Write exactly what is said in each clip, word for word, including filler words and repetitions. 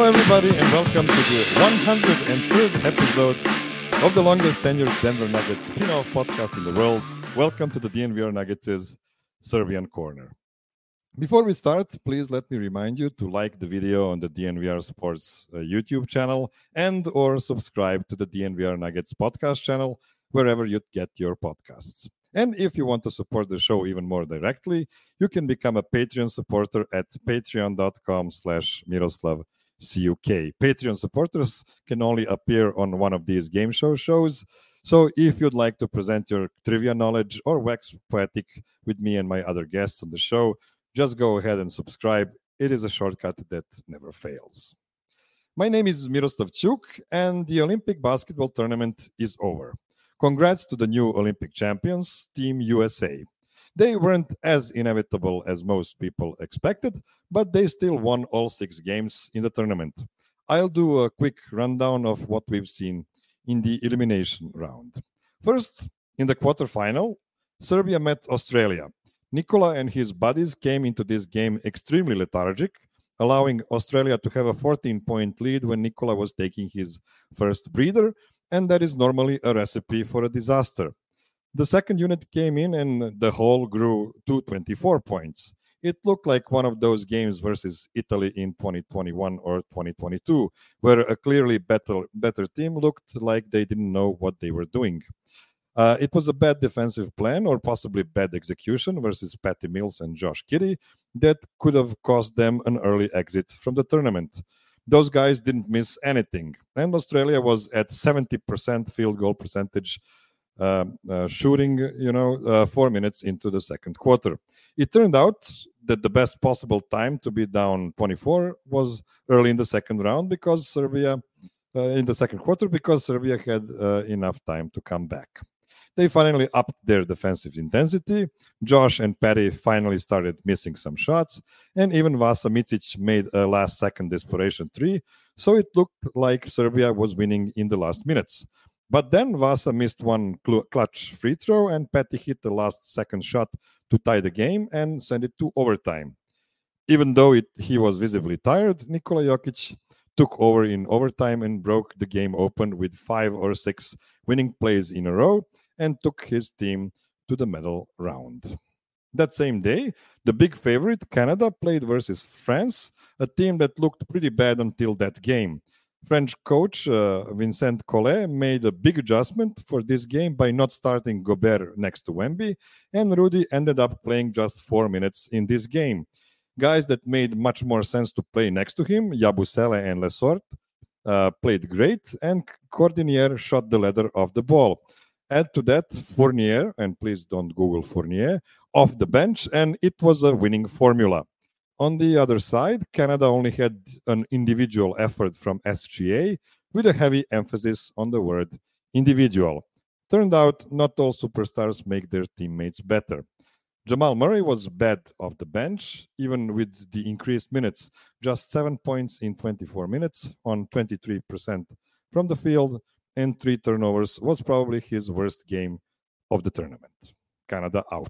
Hello, everybody, and welcome to the one hundred third episode of the longest tenured Denver Nuggets spin-off podcast in the world. Welcome to the D N V R Nuggets' Serbian Corner. Before we start, please let me remind you to like the video on the D N V R Sports uh, YouTube channel and or subscribe to the D N V R Nuggets podcast channel wherever you get your podcasts. And if you want to support the show even more directly, you can become a Patreon supporter at patreon.com slash Miroslav CUK. Patreon supporters can only appear on one of these game show shows. So if you'd like to present your trivia knowledge or wax poetic with me and my other guests on the show, just go ahead and subscribe. It is a shortcut that never fails. My name is Miroslav Chuk, and the Olympic basketball tournament is over. Congrats to the new Olympic champions, Team U S A. They weren't as inevitable as most people expected, but they still won all six games in the tournament. I'll do a quick rundown of what we've seen in the elimination round. First, in the quarterfinal, Serbia met Australia. Nikola and his buddies came into this game extremely lethargic, allowing Australia to have a fourteen-point lead when Nikola was taking his first breather, and that is normally a recipe for a disaster. The second unit came in and the whole grew to twenty-four points. It looked like one of those games versus Italy in twenty twenty-one or twenty twenty-two, where a clearly better, better team looked like they didn't know what they were doing. Uh, it was a bad defensive plan or possibly bad execution versus Patty Mills and Josh Giddey that could have cost them an early exit from the tournament. Those guys didn't miss anything, and Australia was at seventy percent field goal percentage uh, uh, shooting, you know, uh, four minutes into the second quarter. It turned out that the best possible time to be down twenty-four was early in the second round because Serbia, uh, in the second quarter, because Serbia had uh, enough time to come back. They finally upped their defensive intensity. Josh and Patty finally started missing some shots, and even Vasa Micic made a last-second desperation three, so it looked like Serbia was winning in the last minutes. But then Vasa missed one cl- clutch free throw, and Patty hit the last-second shot to tie the game and send it to overtime. Even though it, he was visibly tired, Nikola Jokic took over in overtime and broke the game open with five or six winning plays in a row, and took his team to the medal round. That same day, the big favorite, Canada, played versus France, a team that looked pretty bad until that game. French coach uh, Vincent Collet made a big adjustment for this game by not starting Gobert next to Wemby, and Rudy ended up playing just four minutes in this game. Guys that made much more sense to play next to him, Yabusele and Lesort, uh, played great, and Cordinier shot the leather off the ball. Add to that Fournier, and please don't Google Fournier, off the bench, and it was a winning formula. On the other side, Canada only had an individual effort from S G A with a heavy emphasis on the word individual. Turned out not all superstars make their teammates better. Jamal Murray was bad off the bench, even with the increased minutes, just seven points in twenty-four minutes on twenty-three percent from the field, and three turnovers was probably his worst game of the tournament. Canada out.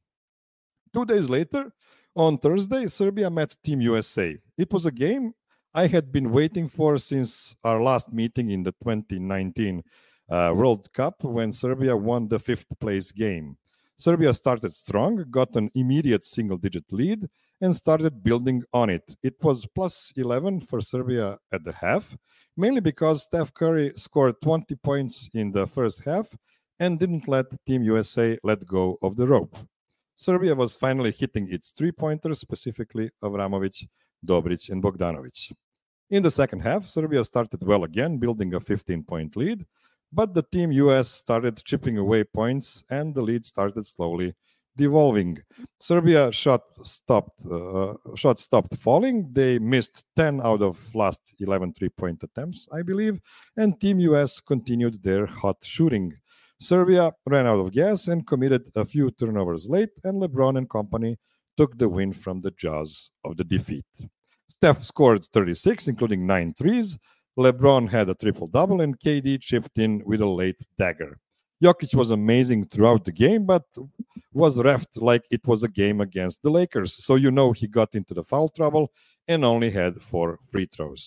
Two days later, on Thursday, Serbia met Team U S A. It was a game I had been waiting for since our last meeting in the twenty nineteen uh, World Cup when Serbia won the fifth place game. Serbia started strong, got an immediate single-digit lead, and started building on it. It was plus eleven for Serbia at the half, mainly because Steph Curry scored twenty points in the first half and didn't let Team U S A let go of the rope. Serbia was finally hitting its three-pointers, specifically Avramovic, Dobric, and Bogdanovic. In the second half, Serbia started well again, building a fifteen-point lead, but the Team U S started chipping away points and the lead started slowly devolving. Serbia shot stopped uh, shot stopped falling. They missed ten out of last eleven three-point attempts, I believe, and Team U S continued their hot shooting. Serbia ran out of gas and committed a few turnovers late, and LeBron and company took the win from the jaws of the defeat. Steph scored thirty-six, including nine threes. LeBron had a triple-double, and K D chipped in with a late dagger. Jokic was amazing throughout the game, but was reffed like it was a game against the Lakers. So you know he got into the foul trouble and only had four free throws.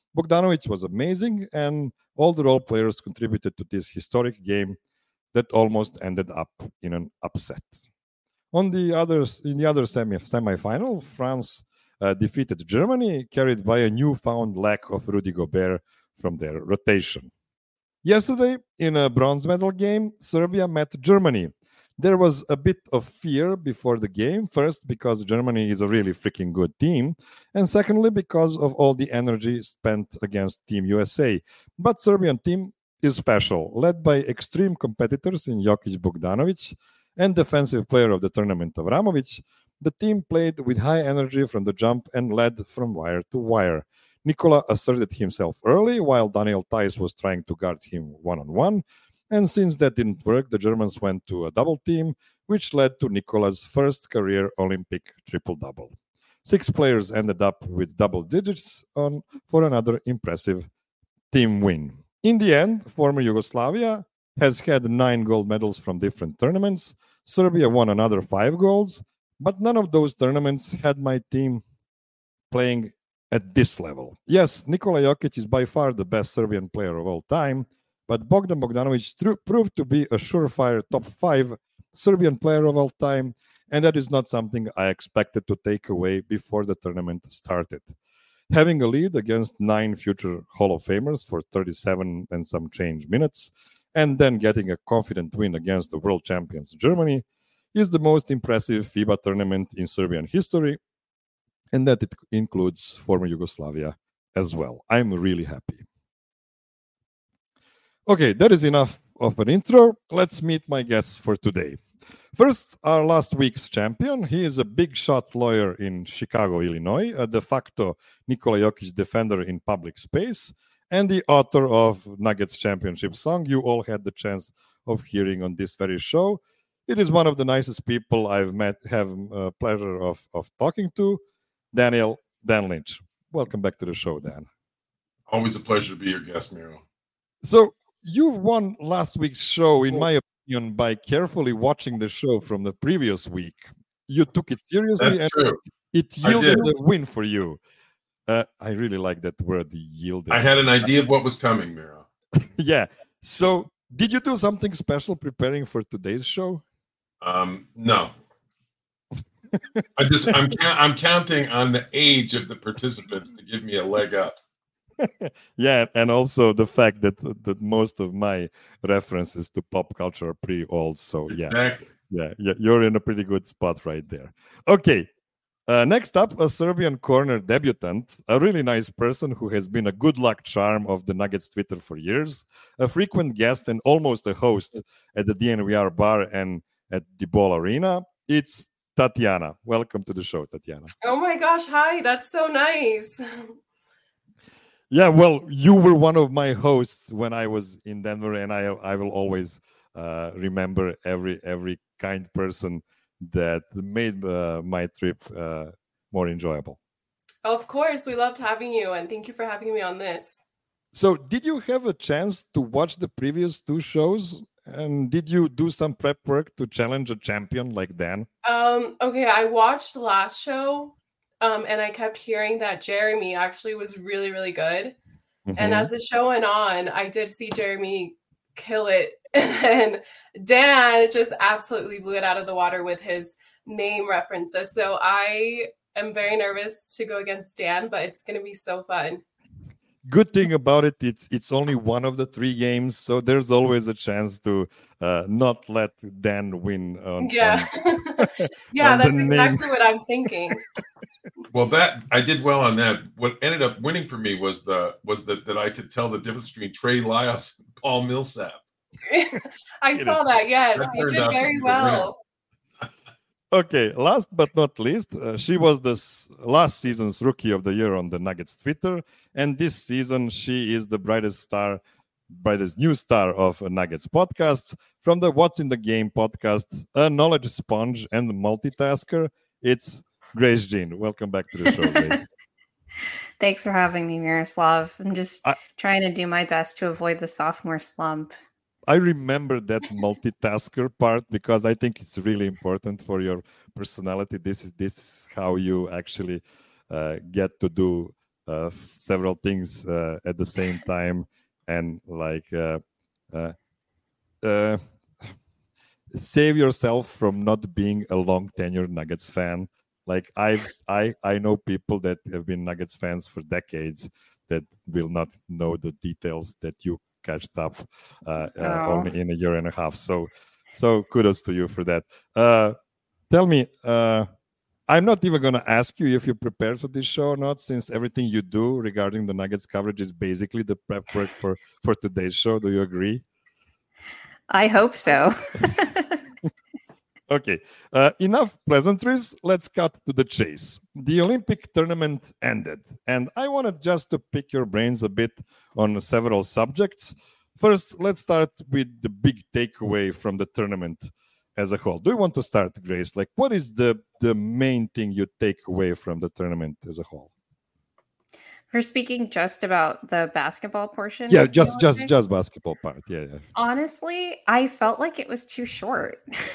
Bogdanovic was amazing, and all the role players contributed to this historic game that almost ended up in an upset. On the others, in the other semi semifinal, France uh, defeated Germany, carried by a newfound lack of Rudy Gobert from their rotation. Yesterday, in a bronze medal game, Serbia met Germany. There was a bit of fear before the game. First, because Germany is a really freaking good team, and secondly, because of all the energy spent against Team U S A. But Serbian team is special, led by extreme competitors in Jokic Bogdanovic and defensive player of the tournament Avramovic. The team played with high energy from the jump and led from wire to wire. Nikola asserted himself early, while Daniel Theis was trying to guard him one-on-one. And since that didn't work, the Germans went to a double team, which led to Nikola's first career Olympic triple-double. Six players ended up with double digits on for another impressive team win. In the end, former Yugoslavia has had nine gold medals from different tournaments. Serbia won another five golds, but none of those tournaments had my team playing at this level. Yes, Nikola Jokic is by far the best Serbian player of all time, but Bogdan Bogdanovic tr- proved to be a surefire top five Serbian player of all time, and that is not something I expected to take away before the tournament started. Having a lead against nine future Hall of Famers for thirty-seven and some change minutes, and then getting a confident win against the world champions Germany, is the most impressive FIBA tournament in Serbian history, and that it includes former Yugoslavia as well. I'm really happy. Okay, that is enough of an intro. Let's meet my guests for today. First, our last week's champion. He is a big shot lawyer in Chicago, Illinois, a de facto Nikola Jokic defender in public space, and the author of Nuggets Championship song you all had the chance of hearing on this very show. It is one of the nicest people I've met, have a pleasure of, of talking to, Daniel Dan Lynch. Welcome back to the show, Dan. Always a pleasure to be your guest, Miro. So you've won last week's show, in my opinion, by carefully watching the show from the previous week. You took it seriously, That's and true. it yielded a win for you. Uh, I really like that word, yielded. I had an idea of what was coming, Miro. Yeah. So did you do something special preparing for today's show? Um, no. I just I'm I'm counting on the age of the participants to give me a leg up. Yeah, and also the fact that that most of my references to pop culture are pretty old. So yeah, exactly. yeah, yeah, you're in a pretty good spot right there. Okay, uh, next up, a Serbian corner debutant, a really nice person who has been a good luck charm of the Nuggets Twitter for years, a frequent guest and almost a host at the D N V R bar and at the Ball Arena. It's Tatiana. Welcome to the show, Tatiana. Oh my gosh, hi. That's so nice. Yeah, well, you were one of my hosts when I was in Denver, and I I will always uh, remember every every kind person that made uh, my trip uh, more enjoyable. Of course, we loved having you, and thank you for having me on this. So, did you have a chance to watch the previous two shows? And did you do some prep work to challenge a champion like Dan? Um, okay, I watched the last show, um, and I kept hearing that Jeremy actually was really, really good. Mm-hmm. And as the show went on, I did see Jeremy kill it. And Dan just absolutely blew it out of the water with his name references. So I am very nervous to go against Dan, but it's going to be so fun. Good thing about it, it's it's only one of the three games, so there's always a chance to uh, not let Dan win. On, yeah, on, yeah, on that's exactly what I'm thinking. Well, that I did well on that. What ended up winning for me was the was the, that I could tell the difference between Trey Lyles and Paul Millsap. I it saw is, that. Yes, that you did very well. Okay, last but not least, uh, she was the s- last season's Rookie of the Year on the Nuggets Twitter, and this season she is the brightest star, brightest new star of a Nuggets podcast. From the What's in the Game podcast, a knowledge sponge and multitasker, it's Grace Jean. Welcome back to the show, Grace. Thanks for having me, Miroslav. I'm just I- trying to do my best to avoid the sophomore slump. I remember that multitasker part because I think it's really important for your personality. This is this is how you actually uh, get to do uh, f- several things uh, at the same time, and like uh, uh, uh, save yourself from not being a long tenured Nuggets fan. Like I've I I know people that have been Nuggets fans for decades that will not know the details that you catched up uh, uh, Oh. only in a year and a half. So so kudos to you for that. Uh, tell me, uh, I'm not even going to ask you if you're prepared for this show or not, since everything you do regarding the Nuggets coverage is basically the prep work for for today's show. Do you agree? I hope so. Okay, uh, enough pleasantries. Let's cut to the chase. The Olympic tournament ended, and I wanted just to pick your brains a bit on several subjects. First, let's start with the big takeaway from the tournament as a whole. Do you want to start, Grace? Like, what is the, the main thing you take away from the tournament as a whole? For speaking just about the basketball portion, yeah, just just just basketball part. Yeah, yeah. Honestly, I felt like it was too short.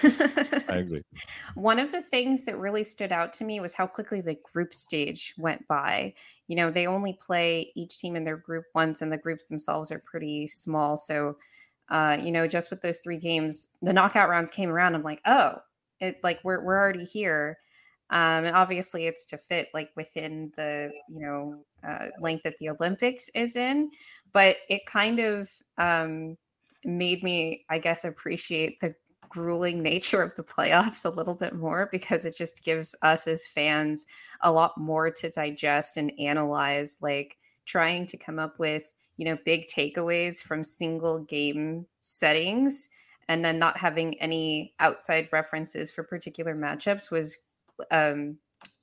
I agree. One of the things that really stood out to me was how quickly the group stage went by. You know, they only play each team in their group once, and the groups themselves are pretty small. So, uh, you know, just with those three games, the knockout rounds came around. I'm like, oh, it like we're we're already here. Um, and obviously it's to fit like within the, you know, uh, length that the Olympics is in, but it kind of um, made me, I guess, appreciate the grueling nature of the playoffs a little bit more, because it just gives us as fans a lot more to digest and analyze, like trying to come up with, you know, big takeaways from single game settings and then not having any outside references for particular matchups was um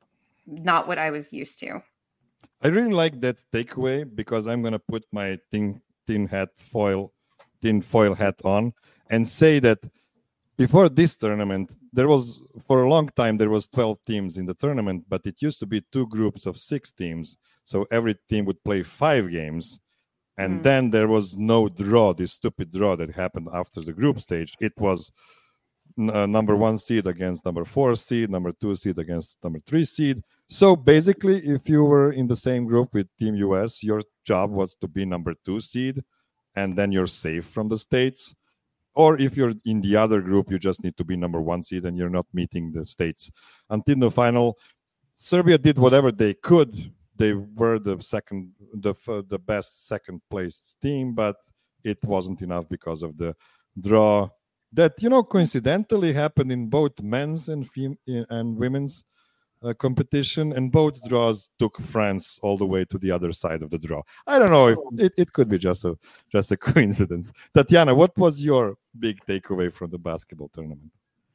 not what I was used to. I really like that takeaway, because I'm gonna put my tin tin hat foil tin foil hat on and say that before this tournament, there was for a long time there was twelve teams in the tournament, but it used to be two groups of six teams, so every team would play five games, and mm. then there was no draw, this stupid draw that happened after the group stage. It was Uh, number one seed against number four seed, number two seed against number three seed. So basically, if you were in the same group with Team U S, your job was to be number two seed, and then you're safe from the States. Or if you're in the other group, you just need to be number one seed, and you're not meeting the States. Until the final, Serbia did whatever they could. They were the second, the the best second place team, but it wasn't enough because of the draw that, you know, coincidentally happened in both men's and fem- and women's uh, competition, and both draws took France all the way to the other side of the draw. I don't know if it, it could be just a just a coincidence. Tatiana, what was your big takeaway from the basketball tournament?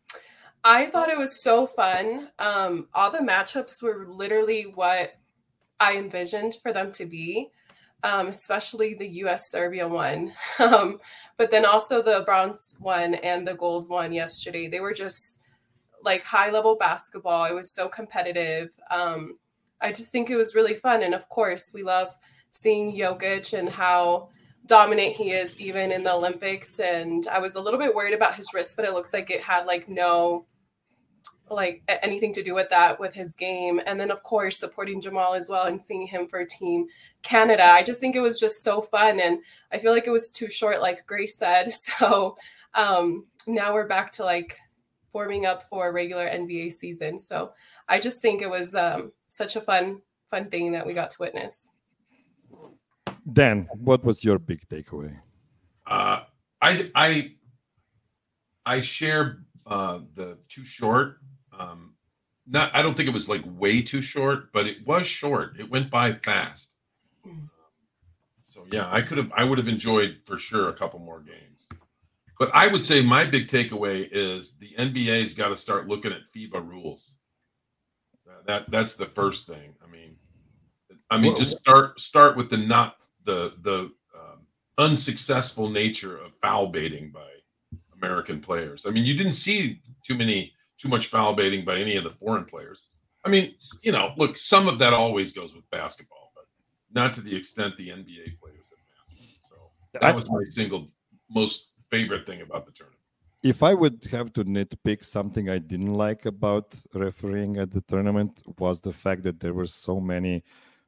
I thought it was so fun. Um, all the matchups were literally what I envisioned for them to be. Um, especially the U S Serbia one, um, but then also the bronze one and the gold one yesterday. They were just like high level basketball. It was so competitive. Um, I just think it was really fun. And of course, we love seeing Jokic and how dominant he is even in the Olympics. And I was a little bit worried about his wrist, but it looks like it had like no like anything to do with that with his game. And then of course supporting Jamal as well and seeing him for Team Canada. I just think it was just so fun, and I feel like it was too short, like Grace said. So um now we're back to like forming up for a regular N B A season. So I just think it was um such a fun fun thing that we got to witness. Dan, what was your big takeaway? uh I I I share uh the too short. Um, not, I don't think it was like way too short, but it was short. It went by fast. So yeah, I could have, I would have enjoyed for sure a couple more games. But I would say my big takeaway is the N B A's got to start looking at FIBA rules. That that's the first thing. I mean, I mean, just start start with the not the the um, unsuccessful nature of foul baiting by American players. I mean, you didn't see too many. too much foul baiting by any of the foreign players. I mean, you know, look, some of that always goes with basketball, but not to the extent the N B A players have mastered. So that was my single most favorite thing about the tournament. If I would have to nitpick something I didn't like about refereeing at the tournament was the fact that there were so many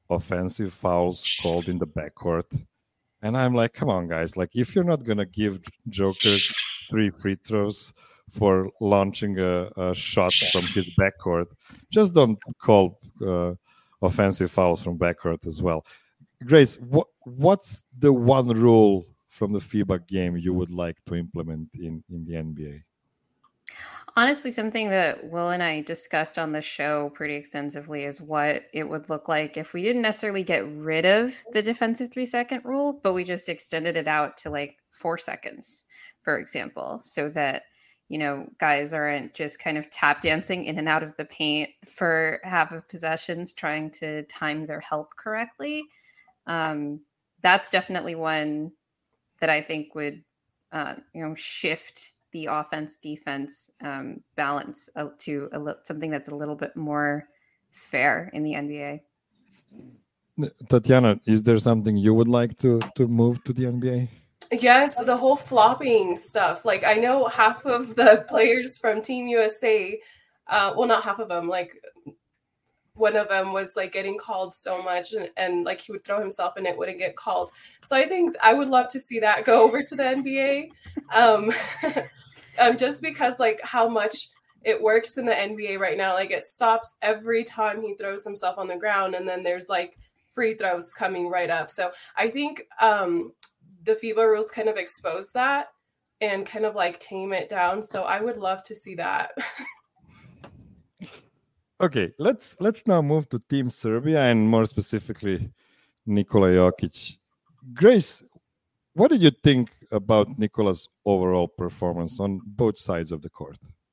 offensive fouls called in the backcourt. And I'm like, come on, guys. Like, if you're not going to give Joker three free throws for launching a, a shot from his backcourt, just don't call uh, offensive fouls from backcourt as well. Grace, what, what's the one rule from the FIBA game you would like to implement in, in the N B A? Honestly, something that Will and I discussed on the show pretty extensively is what it would look like if we didn't necessarily get rid of the defensive three second rule, but we just extended it out to like four seconds, for example, so that, you know, guys aren't just kind of tap dancing in and out of the paint for half of possessions, trying to time their help correctly. Um, that's definitely one that I think would, uh, you know, shift the offense defense um, balance uh, to a li- something that's a little bit more fair in the N B A. Tatiana, is there something you would like to, to move to the N B A? Yes, the whole flopping stuff. Like, I know half of the players from Team U S A, uh, well, not half of them, like one of them was like getting called so much and, and like he would throw himself and it wouldn't get called. So I think I would love to see that go over to the N B A. Um, um, just because like how much it works in the N B A right now. Like it stops every time he throws himself on the ground and then there's like free throws coming right up. So I think um, the FIBA rules kind of expose that and kind of like tame it down. So I would love to see that. Okay, let's let's now move to Team Serbia and more specifically Nikola Jokic. Grace, what did you think about Nikola's overall performance on both sides of the court?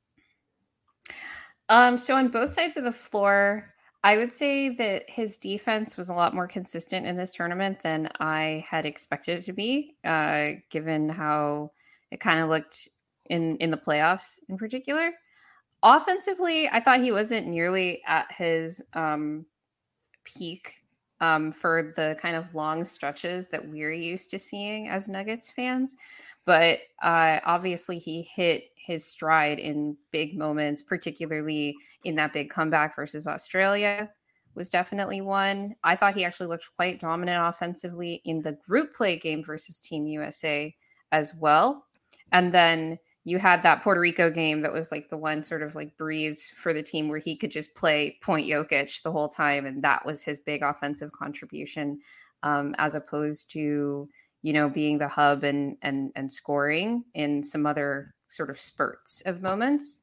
Um, so on both sides of the floor, I would say that his defense was a lot more consistent in this tournament than I had expected it to be, uh, given how it kind of looked in, in the playoffs in particular. Offensively, I thought he wasn't nearly at his um, peak um, for the kind of long stretches that we're used to seeing as Nuggets fans. But uh, obviously he hit his stride in big moments, particularly in that big comeback versus Australia was definitely one. I thought he actually looked quite dominant offensively in the group play game versus Team U S A as well. And then you had that Puerto Rico game that was like the one sort of like breeze for the team where he could just play point Jokic the whole time. And that was his big offensive contribution, um, as opposed to, you know, being the hub and, and, and scoring in some other sort of spurts of moments.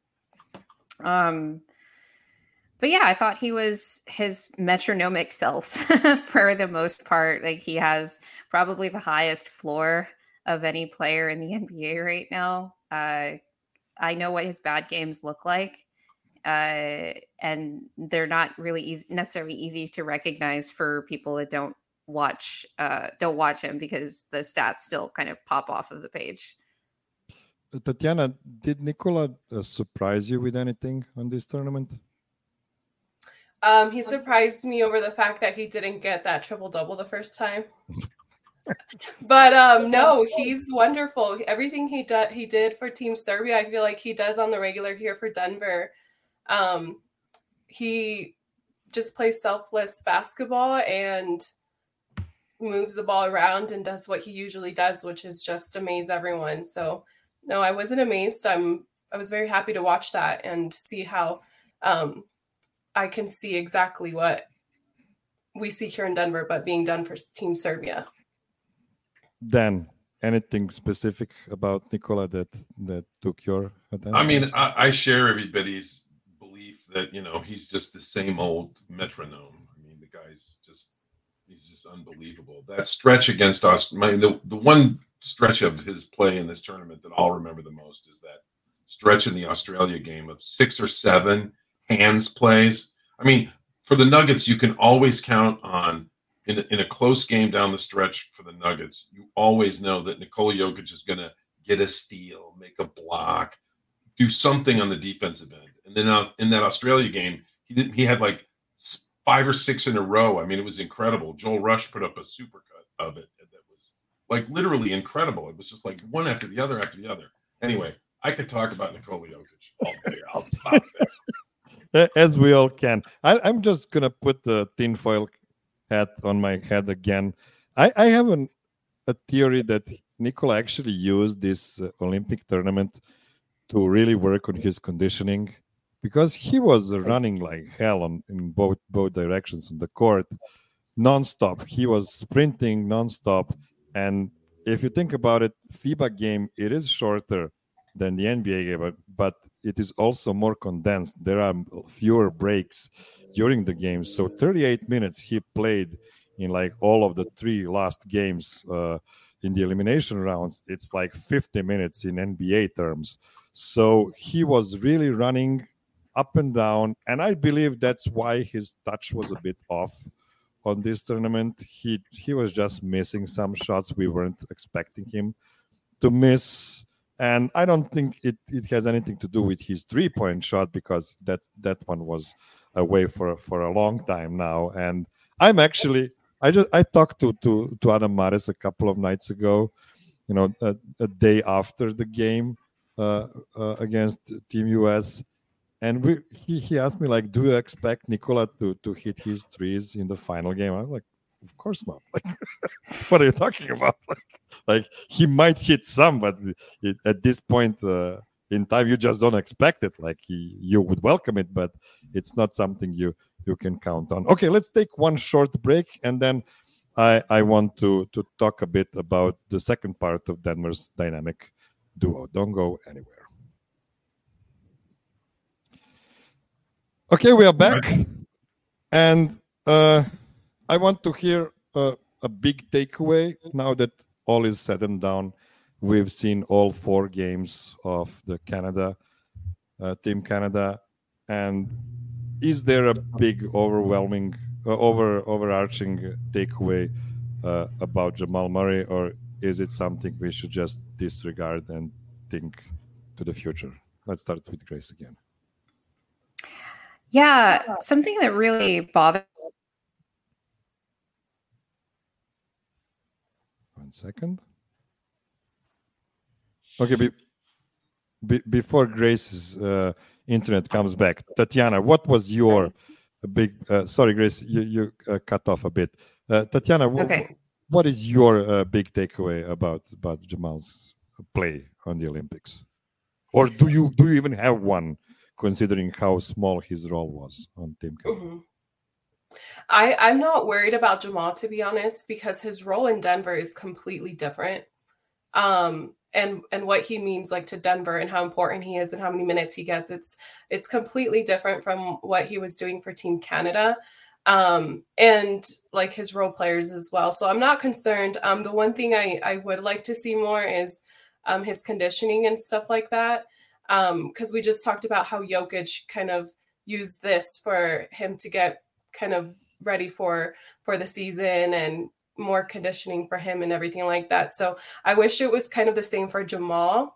Um, but yeah, I thought he was his metronomic self for the most part. Like he has probably the highest floor of any player in the N B A right now. Uh, I know what his bad games look like, uh, and they're not really easy, necessarily easy to recognize for people that don't watch uh, don't watch him because the stats still kind of pop off of the page. Tatiana, did Nikola uh, surprise you with anything on this tournament? Um, he surprised me over the fact that he didn't get that triple double the first time. But um, no, he's wonderful. Everything he did, he did for Team Serbia, I feel like he does on the regular here for Denver. Um, he just plays selfless basketball and moves the ball around and does what he usually does, which is just amaze everyone. So no, I wasn't amazed. I'm I was very happy to watch that and see how um, I can see exactly what we see here in Denver, but being done for Team Serbia. Dan, anything specific about Nikola that that took your attention? I mean, I, I share everybody's belief that, you know, he's just the same old metronome. I mean, the guy's just, he's just unbelievable. That stretch against us, my, the, the one stretch of his play in this tournament that I'll remember the most is that stretch in the Australia game of six or seven hands plays. I mean, for the Nuggets, you can always count on, In a, in a close game down the stretch for the Nuggets, you always know that Nikola Jokic is going to get a steal, make a block, do something on the defensive end. And then uh, in that Australia game, he did, he had like five or six in a row. I mean, it was incredible. Joel Rush put up a supercut of it that was like literally incredible. It was just like one after the other after the other. Anyway, I could talk about Nikola Jokic all day. I'll stop this. As we all can. I, I'm just going to put the tinfoil hat on my head again. I, I have an, a theory that Nikola actually used this uh, Olympic tournament to really work on his conditioning, because he was running like hell on, in both both directions on the court, nonstop. He was sprinting nonstop. And if you think about it, FIBA game, it is shorter than the N B A game, but, but it is also more condensed. There are fewer breaks during the game. So thirty-eight minutes he played in like all of the three last games uh, in the elimination rounds. It's like fifty minutes in N B A terms. So he was really running up and down. And I believe that's why his touch was a bit off on this tournament. He he was just missing some shots we weren't expecting him to miss. And I don't think it, it has anything to do with his three-point shot, because that that one was away for, for a long time now. And I'm actually, I just I talked to to, to Adam Mares a couple of nights ago, you know, a, a day after the game uh, uh, against Team U S. And we, he, he asked me, like, do you expect Nikola to, to hit his threes in the final game? I'm like, of course not. Like, what are you talking about? Like, like he might hit some, but it, at this point uh, in time, you just don't expect it. Like he, you would welcome it, but it's not something you you can count on. Okay, let's take one short break, and then I I want to to talk a bit about the second part of Denver's dynamic duo. Don't go anywhere. Okay, we are back, and. Uh, I want to hear uh, a big takeaway now that all is said and done. We've seen all four games of the Canada, uh, Team Canada. And is there a big, overwhelming, uh, over overarching takeaway uh, about Jamal Murray, or is it something we should just disregard and think to the future? Let's start with Grace again. Yeah, something that really bothered One second. Okay, be, be, before Grace's uh, internet comes back, Tatiana, what was your big? Uh, sorry, Grace, you you uh, cut off a bit. Uh, Tatiana, okay. w- what is your uh, big takeaway about about Jamal's play on the Olympics, or do you do you even have one, considering how small his role was on Team Canada? Mm-hmm. I, I'm not worried about Jamal, to be honest, because his role in Denver is completely different. Um, and and what he means like to Denver and how important he is and how many minutes he gets, it's it's completely different from what he was doing for Team Canada. Um, and like his role players as well. So I'm not concerned. Um, the one thing I, I would like to see more is um, his conditioning and stuff like that. Um, because we just talked about how Jokic kind of used this for him to get kind of ready for for the season and more conditioning for him and everything like that. So I wish it was kind of the same for Jamal.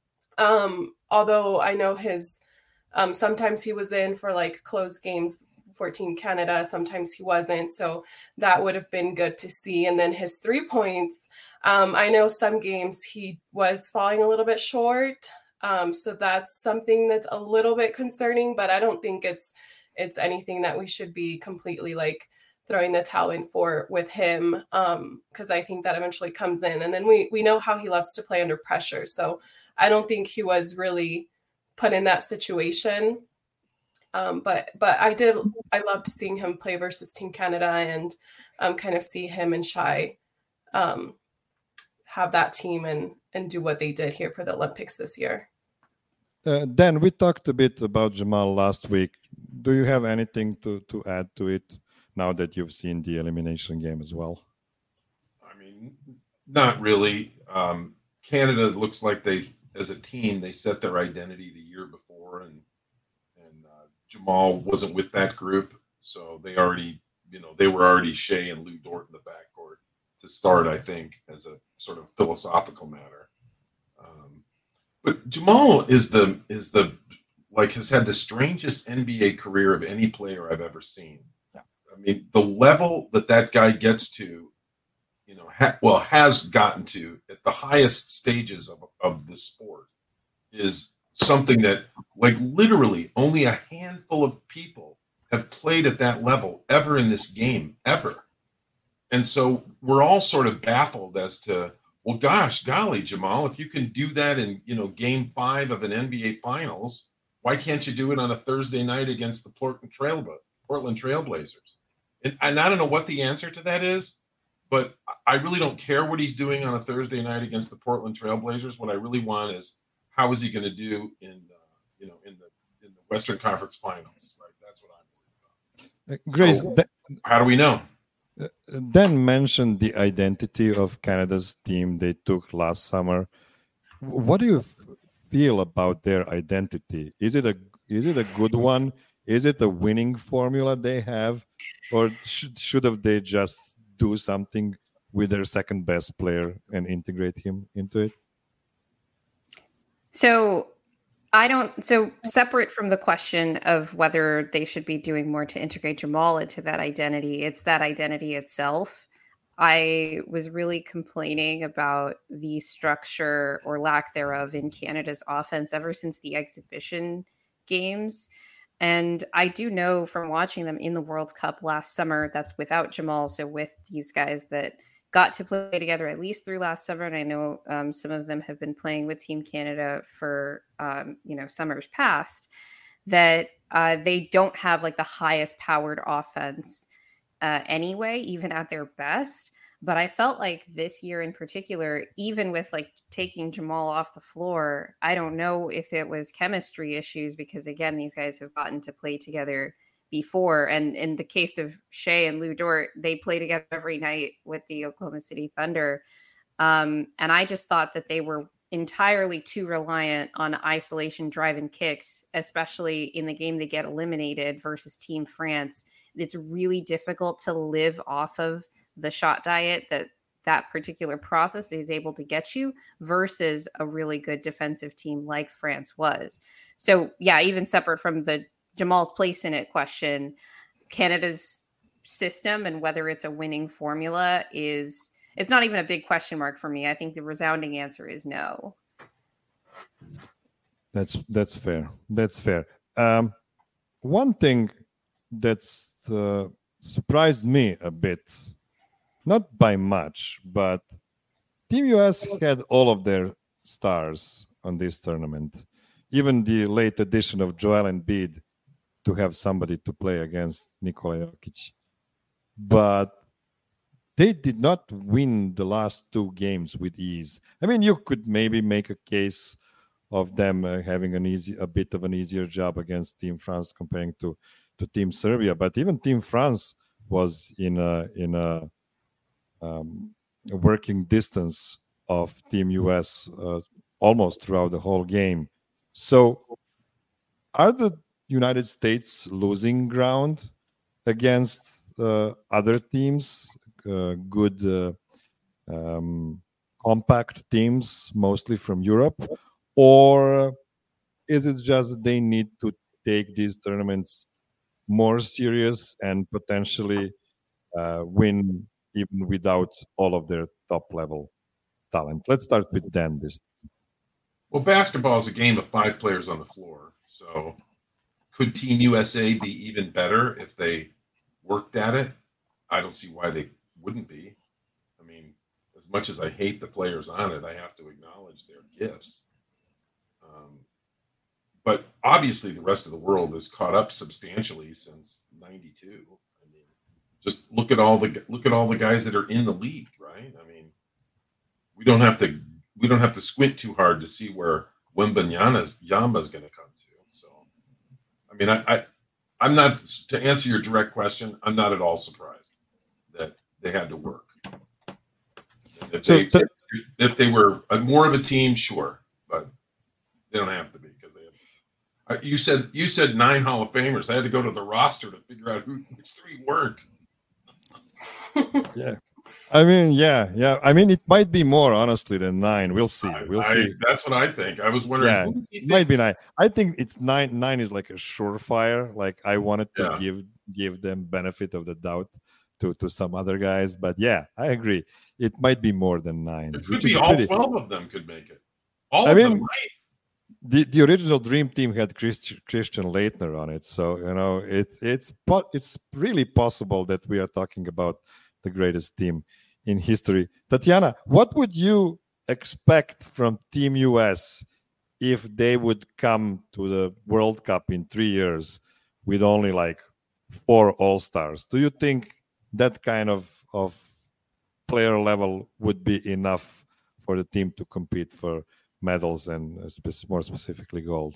Um, although I know his um, sometimes he was in for like close games for Team Canada, sometimes he wasn't. So that would have been good to see. And then his three points, um, I know some games he was falling a little bit short. Um, so that's something that's a little bit concerning, but I don't think it's it's anything that we should be completely like throwing the towel in for with him. Um, cause I think that eventually comes in, and then we, we know how he loves to play under pressure. So I don't think he was really put in that situation. Um, but, but I did, I loved seeing him play versus Team Canada and um, kind of see him and Shai um, have that team and, and do what they did here for the Olympics this year. Uh, Dan, we talked a bit about Jamal last week. Do you have anything to, to add to it now that you've seen the elimination game as well? I mean, not really. Um, Canada looks like they, as a team, they set their identity the year before, and and uh, Jamal wasn't with that group, so they already, you know, they were already Shea and Lou Dort in the backcourt to start, I think, as a sort of philosophical matter. Um, but Jamal is the is the like has had the strangest N B A career of any player I've ever seen. Yeah. I mean, the level that that guy gets to, you know, ha- well, has gotten to at the highest stages of, of the sport is something that, like, literally only a handful of people have played at that level ever in this game, ever. and so we're all sort of baffled as to, well, gosh, golly, Jamal, if you can do that in, you know, game five of an N B A Finals, why can't you do it on a Thursday night against the Portland Trail Portland Trailblazers? And, and I don't know what the answer to that is, but I really don't care what he's doing on a Thursday night against the Portland Trailblazers. What I really want is, how is he going to do in, uh, you know, in the in the Western Conference Finals? Right, that's what I'm worried about. Uh, Grace, so, that, how do we know? Uh, Dan mentioned the identity of Canada's team they took last summer. What do you f- feel about their identity? Is it a is it a good one? Is it a winning formula they have, or should should have they just do something with their second best player and integrate him into it? So I don't, so separate from the question of whether they should be doing more to integrate Jamal into that identity, it's that identity itself. I was really complaining about the structure or lack thereof in Canada's offense ever since the exhibition games. And I do know from watching them in the World Cup last summer, that's without Jamal, so with these guys that got to play together at least through last summer. And I know um, some of them have been playing with Team Canada for, um, you know, summers past, that uh, they don't have like the highest powered offense uh, anyway, even at their best. But I felt like this year in particular, even with like taking Jamal off the floor, I don't know if it was chemistry issues, because again, these guys have gotten to play together before. And in the case of Shea and Lou Dort, they play together every night with the Oklahoma City Thunder. Um, and I just thought that they were entirely too reliant on isolation drive and kicks, especially in the game they get eliminated versus Team France. It's really difficult to live off of the shot diet that that particular process is able to get you versus a really good defensive team like France was. So yeah, even separate from the Jamal's place in it question, Canada's system and whether it's a winning formula is, it's not even a big question mark for me. I think the resounding answer is no. That's that's fair. That's fair. Um, one thing that's uh, surprised me a bit, not by much, but Team U S had all of their stars on this tournament. Even the late addition of Joel Embiid to have somebody to play against Nikola Jokic. But they did not win the last two games with ease. I mean, you could maybe make a case of them uh, having an easy, a bit of an easier job against Team France comparing to, to Team Serbia. But even Team France was in a in a, um, a working distance of Team U S uh, almost throughout the whole game. So, are the United States losing ground against uh, other teams, uh, good uh, um, compact teams, mostly from Europe? Or is it just that they need to take these tournaments more serious and potentially uh, win even without all of their top-level talent? Let's start with Dan this time. Well, basketball is a game of five players on the floor, so could Team U S A be even better if they worked at it? I don't see why they wouldn't be. I mean, as much as I hate the players on it, I have to acknowledge their gifts. Um, but obviously, the rest of the world has caught up substantially since ninety-two. I mean, just look at all the look at all the guys that are in the league, right? I mean, we don't have to we don't have to squint too hard to see where Wembanyama's Yama's going to come to. So, I mean, I, I I'm not, to answer your direct question, I'm not at all surprised that they had to work. If So they th- if they were a, more of a team, sure, but they don't have to be because they have. Uh, you said you said nine Hall of Famers. I had to go to the roster to figure out who which three weren't. Yeah. I mean, yeah, yeah. I mean, it might be more, honestly, than nine. We'll see. We'll I, see. That's what I think. I was wondering. Yeah, who do you it think- might be nine. I think it's nine. Nine is like a surefire. Like I wanted to Yeah. give give them benefit of the doubt to to some other guys, but yeah, I agree. It might be more than nine. It could which be is all pretty- twelve of them could make it. All I of mean, them, right? the the original dream team had Christ, Christian Leitner on it, so you know it's it's po- it's really possible that we are talking about the greatest team in history. Tatiana, what would you expect from Team U S if they would come to the World Cup in three years with only like four All-Stars? Do you think that kind of, of player level would be enough for the team to compete for medals and uh, spe- more specifically gold?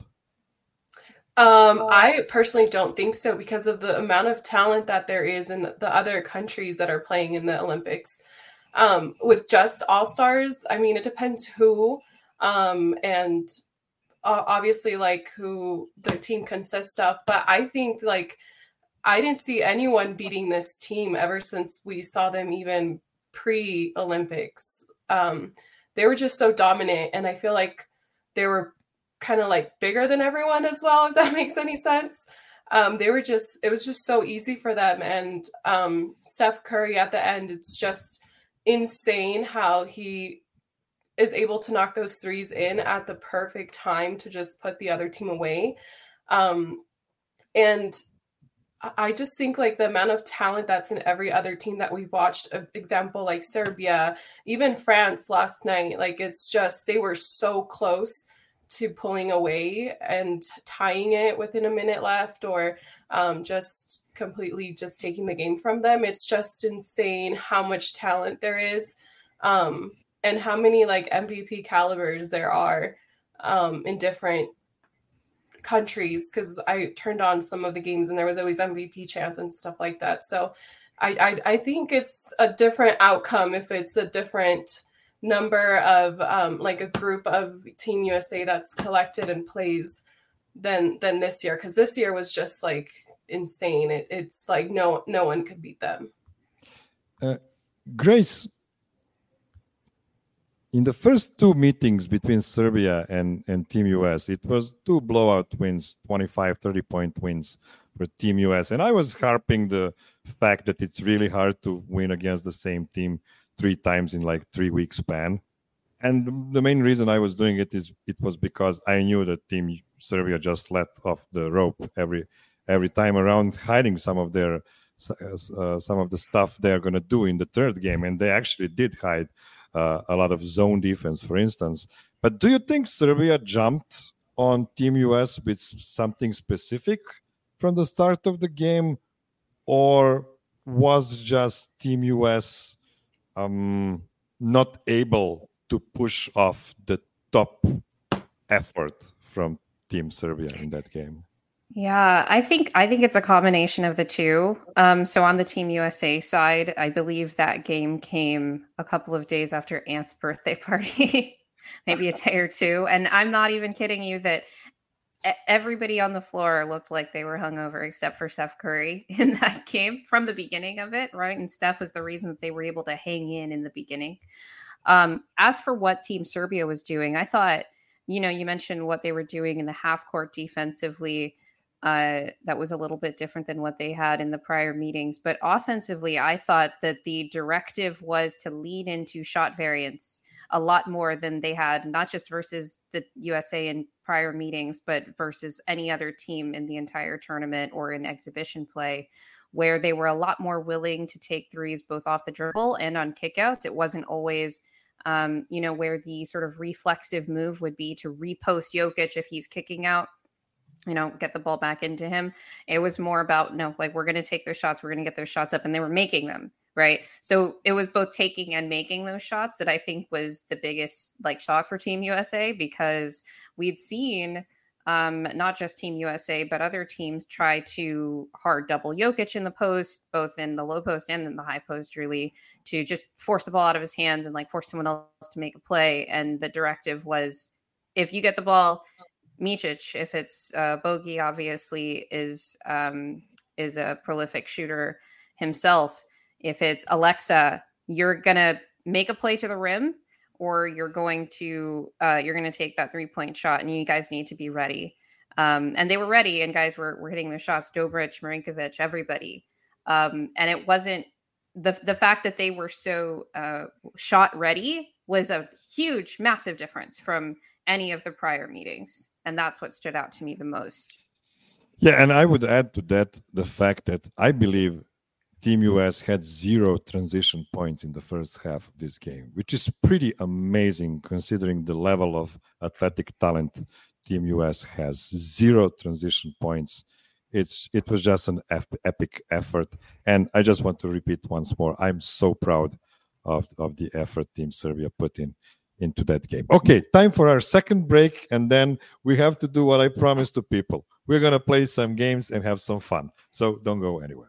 Um, I personally don't think so because of the amount of talent that there is in the other countries that are playing in the Olympics. Um, with just all-stars, I mean, it depends who, um, and uh, obviously like who the team consists of. But I think like I didn't see anyone beating this team ever since we saw them even pre-Olympics. Um, they were just so dominant, and I feel like they were kind of like bigger than everyone as well, if that makes any sense. Um, they were just, it was just so easy for them. And um, Steph Curry at the end, it's just insane how he is able to knock those threes in at the perfect time to just put the other team away. Um, and I just think like the amount of talent that's in every other team that we've watched, an example like Serbia, even France last night, like it's just, they were so close to pulling away and tying it within a minute left, or um, just completely just taking the game from them. It's just insane how much talent there is, um, and how many like M V P calibers there are um, in different countries, because I turned on some of the games and there was always M V P chants and stuff like that. So I, I, I think it's a different outcome if it's a different number of um, like a group of Team U S A that's collected and plays than than this year, because this year was just like insane. It, it's like no no one could beat them. Uh, Grace, in the first two meetings between Serbia and, and Team U S, it was two blowout wins, twenty-five, thirty point wins for Team U S. And I was harping the fact that it's really hard to win against the same team three times in like three week span. And the main reason I was doing it is it was because I knew that Team Serbia just let off the rope every every time around, hiding some of their uh, some of the stuff they are going to do in the third game. And they actually did hide uh, a lot of zone defense, for instance. But do you think Serbia jumped on Team U S with something specific from the start of the game, or was just Team U S um, not able to push off the top effort from Team Serbia in that game? Yeah, I think I think it's a combination of the two. Um, so on the Team U S A side, I believe that game came a couple of days after Ant's birthday party, maybe a day or two. And I'm not even kidding you that everybody on the floor looked like they were hungover except for Steph Curry in that game from the beginning of it, right? And Steph was the reason that they were able to hang in in the beginning. Um, as for what Team Serbia was doing, I thought, you know, you mentioned what they were doing in the half court defensively. Uh, that was a little bit different than what they had in the prior meetings. But offensively, I thought that the directive was to lean into shot variance a lot more than they had, not just versus the U S A in prior meetings, but versus any other team in the entire tournament or in exhibition play, where they were a lot more willing to take threes both off the dribble and on kickouts. It wasn't always, um, you know, where the sort of reflexive move would be to repost Jokic if he's kicking out, you know, get the ball back into him. It was more about, no, like, we're going to take those shots. We're going to get those shots up. And they were making them, right? So it was both taking and making those shots that I think was the biggest like shock for Team U S A, because we'd seen um, not just Team U S A, but other teams try to hard double Jokic in the post, both in the low post and in the high post, really, to just force the ball out of his hands and like force someone else to make a play. And the directive was, if you get the ball, Micic, if it's uh, Bogey, obviously is um, is a prolific shooter himself. If it's Alexa, you're gonna make a play to the rim, or you're going to uh, you're gonna take that three point shot, and you guys need to be ready. Um, and they were ready, and guys were were hitting their shots. Dobric, Marinkovic, everybody, um, and it wasn't the the fact that they were so uh, shot ready was a huge, massive difference from any of the prior meetings. And that's what stood out to me the most. Yeah, and I would add to that the fact that I believe Team U S had zero transition points in the first half of this game, which is pretty amazing considering the level of athletic talent Team U S has. Zero transition points. It's it was just an ep- epic effort, and I just want to repeat once more, I'm so proud of, of the effort Team Serbia put in into that game. Okay, time for our second break, and then we have to do what I promised to people. We're going to play some games and have some fun, so don't go anywhere.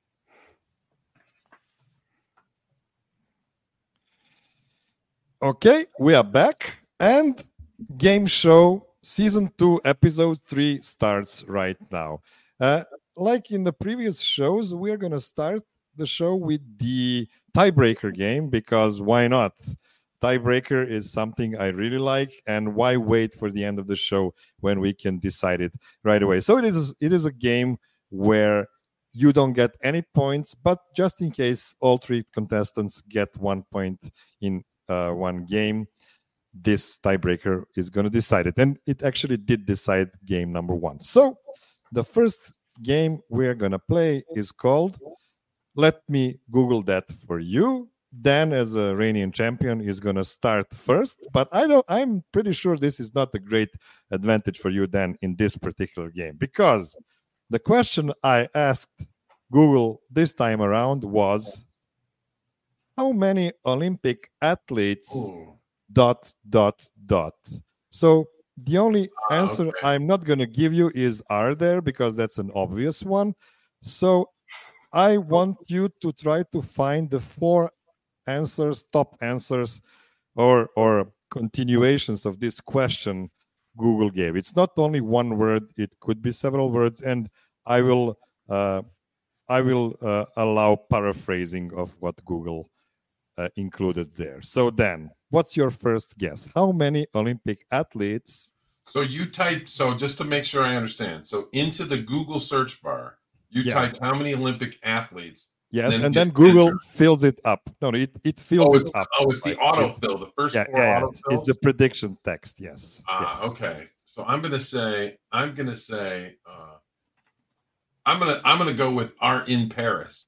Okay, we are back, and Game Show Season two, Episode three starts right now. Uh, like in the previous shows, we're going to start the show with the tiebreaker game, because why not? Tiebreaker is something I really like, and why wait for the end of the show when we can decide it right away? So it is, it is a game where you don't get any points, but just in case all three contestants get one point in uh, one game, this tiebreaker is going to decide it. And it actually did decide game number one. So the first game we're going to play is called, let me Google that for you. Dan, as a reigning champion, is going to start first, but I don't, I'm pretty sure this is not a great advantage for you, Dan, in this particular game, because the question I asked Google this time around was, how many Olympic athletes Ooh. dot, dot, dot. So the only answer okay. I'm not going to give you is, are there, because that's an obvious one. So I want you to try to find the four answers, top answers, or or continuations of this question Google gave. It's not only one word; it could be several words, and I will uh, I will uh, allow paraphrasing of what Google uh, included there. So Dan, what's your first guess? How many Olympic athletes? So you type. So just to make sure I understand. So into the Google search bar, you yeah. type how many Olympic athletes. Yes, and then, and then Google enter. fills it up. No, no, it, it fills oh, it up. Oh, it's the like, autofill, the first yeah, four yeah, autofills? It's the prediction text, yes. Ah, yes. Okay. So I'm gonna say, I'm gonna say, uh, I'm gonna I'm gonna go with are in Paris.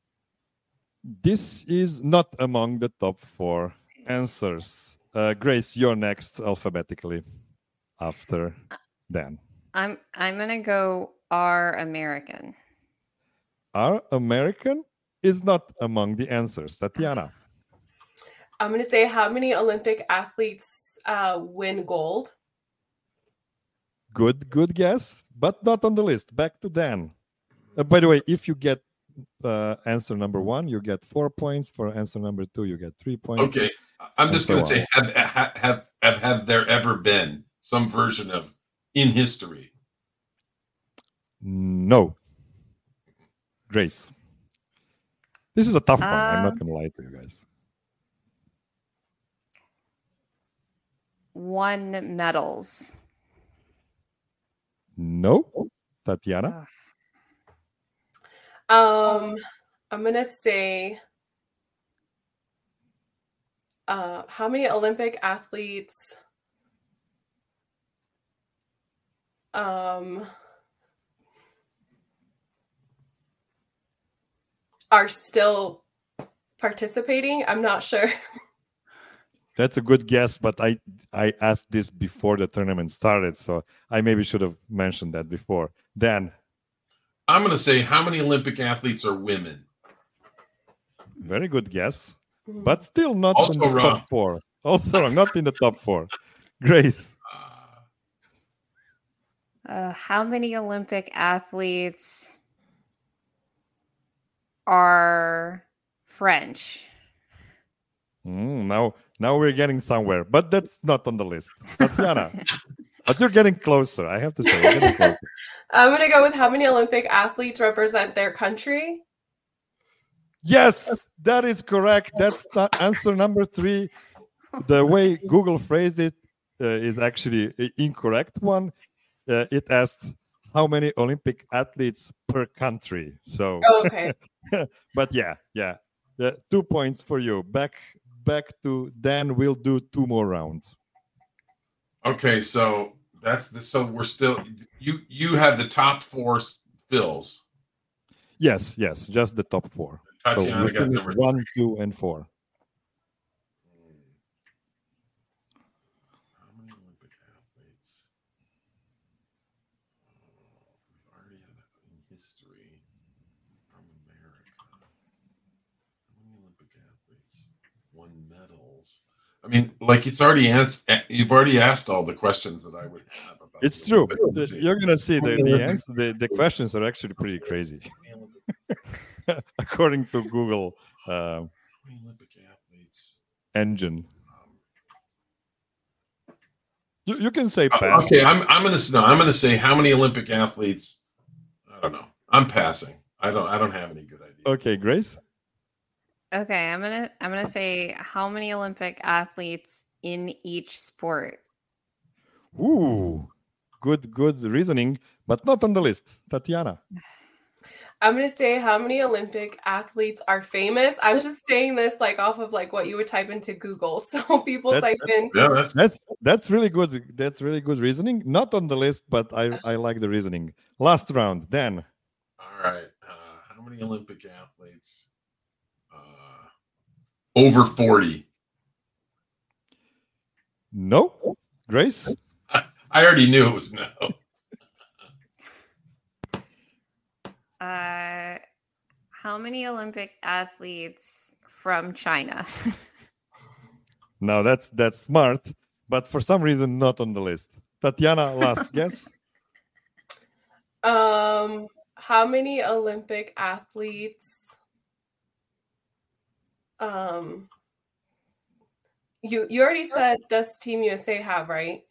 This is not among the top four answers. Uh, Grace, you're next alphabetically after Dan. I'm I'm gonna go are American. Are American is not among the answers. Tatiana. I'm going to say, how many Olympic athletes uh, win gold? Good, good guess, but not on the list. Back to Dan. Uh, by the way, if you get uh, answer number one, you get four points. For answer number two, you get three points. Okay. I'm just so going to say, have, have, have, have, have there ever been some version of in history? No. Grace. This is a tough one. Um, I'm not going to lie to you guys. Won medals. No. Tatiana? Um, I'm going to say, uh, how many Olympic athletes um, are still participating? I'm not sure. That's a good guess, but I I asked this before the tournament started, so I maybe should have mentioned that before. Dan? I'm going to say, how many Olympic athletes are women? Very good guess, but still not also in the wrong. top four. Also wrong, not in the top four. Grace? Uh, how many Olympic athletes are French? Mm, now, now we're getting somewhere, but that's not on the list. Tatiana, but you're getting closer. I have to say, you're getting closer. I'm going to go with how many Olympic athletes represent their country. Yes, that is correct. That's the answer number three. The way Google phrased it uh, is actually an incorrect one. Uh, it asked how many Olympic athletes per country. So, oh, okay. But yeah, yeah, uh, two points for you. Back, back to Dan. We'll do two more rounds. Okay, so that's the so we're still you. You had the top four fills. Yes, yes, just the top four. Tatiana so we still got need number one, three. two, and four. How many Olympic athletes? We've already had that in history from America. How many Olympic athletes won medals? I mean, like it's already asked. You've already asked all the questions that I would have about. It's the true. Olympics. The- You're gonna see the the, answer, the the questions are actually pretty crazy, according to Google uh, How many Olympic athletes? engine. Um, You, you can say Uh, pass. Okay, I'm I'm gonna no, I'm gonna say how many Olympic athletes? I don't know. I'm passing. I don't I don't have any good idea. Okay, Grace. Okay, I'm gonna I'm gonna say how many Olympic athletes in each sport. Ooh, good, good reasoning, but not on the list. Tatiana. I'm gonna say how many Olympic athletes are famous. I'm just saying this like off of like what you would type into Google. So people That- type in Yeah, that's That's that's really good. That's really good reasoning. Not on the list, but I I like the reasoning. Last round, Dan. all right. Uh, how many Olympic athletes? Uh, over forty. No, Grace. I already knew it was no. Uh, how many Olympic athletes from China? No, that's that's smart, but for some reason not on the list. Tatiana, last guess. um how many Olympic athletes um you you already said does Team U S A have, right?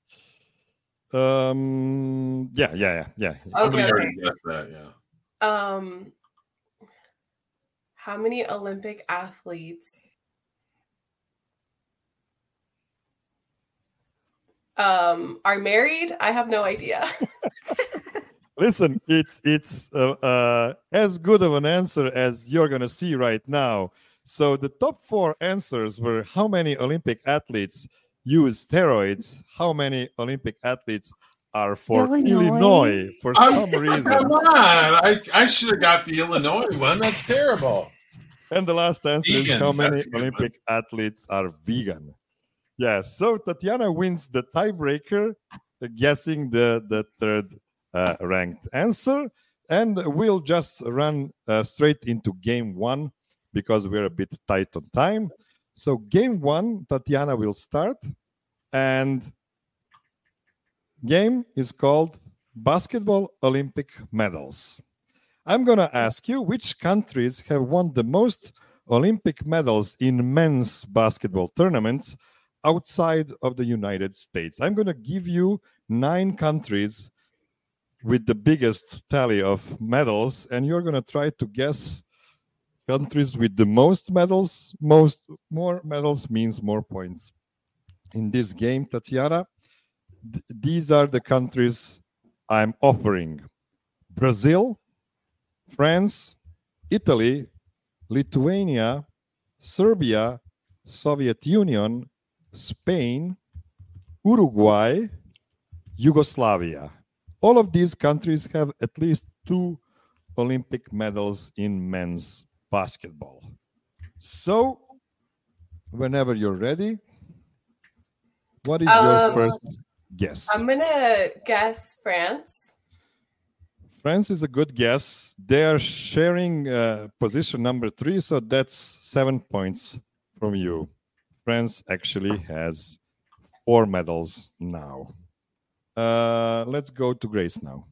Um, yeah, yeah, yeah, yeah. Somebody Okay, already guessed that. Yeah. Um how many Olympic athletes um are married? I have no idea. Listen, it's it's uh, uh, as good of an answer as you're gonna see right now. So the top four answers were: how many Olympic athletes use steroids? How many Olympic athletes are for Illinois. Illinois, for I'm- some reason? Come on. I, I should have got the Illinois one. That's terrible. And the last answer is: Vegan, how many that's a good Olympic athletes are vegan? Yes. So Tatiana wins the tiebreaker, uh, guessing the the third uh, ranked answer, and we'll just run uh, straight into game one because we're a bit tight on time. So game one, Tatiana will start, and game is called Basketball Olympic Medals. I'm going to ask you which countries have won the most Olympic medals in men's basketball tournaments outside of the United States. I'm going to give you nine countries with the biggest tally of medals, and you're going to try to guess countries with the most medals. Most more medals means more points. In this game, Tatiana, th- these are the countries I'm offering: Brazil, France, Italy, Lithuania, Serbia, Soviet Union, Spain, Uruguay, Yugoslavia. All of these countries have at least two Olympic medals in men's basketball. So, whenever you're ready, what is your Um, first guess? I'm gonna guess France. France is a good guess. They are sharing uh, position number three, so that's seven points from you. France actually has four medals now. Uh, let's go to Grace now.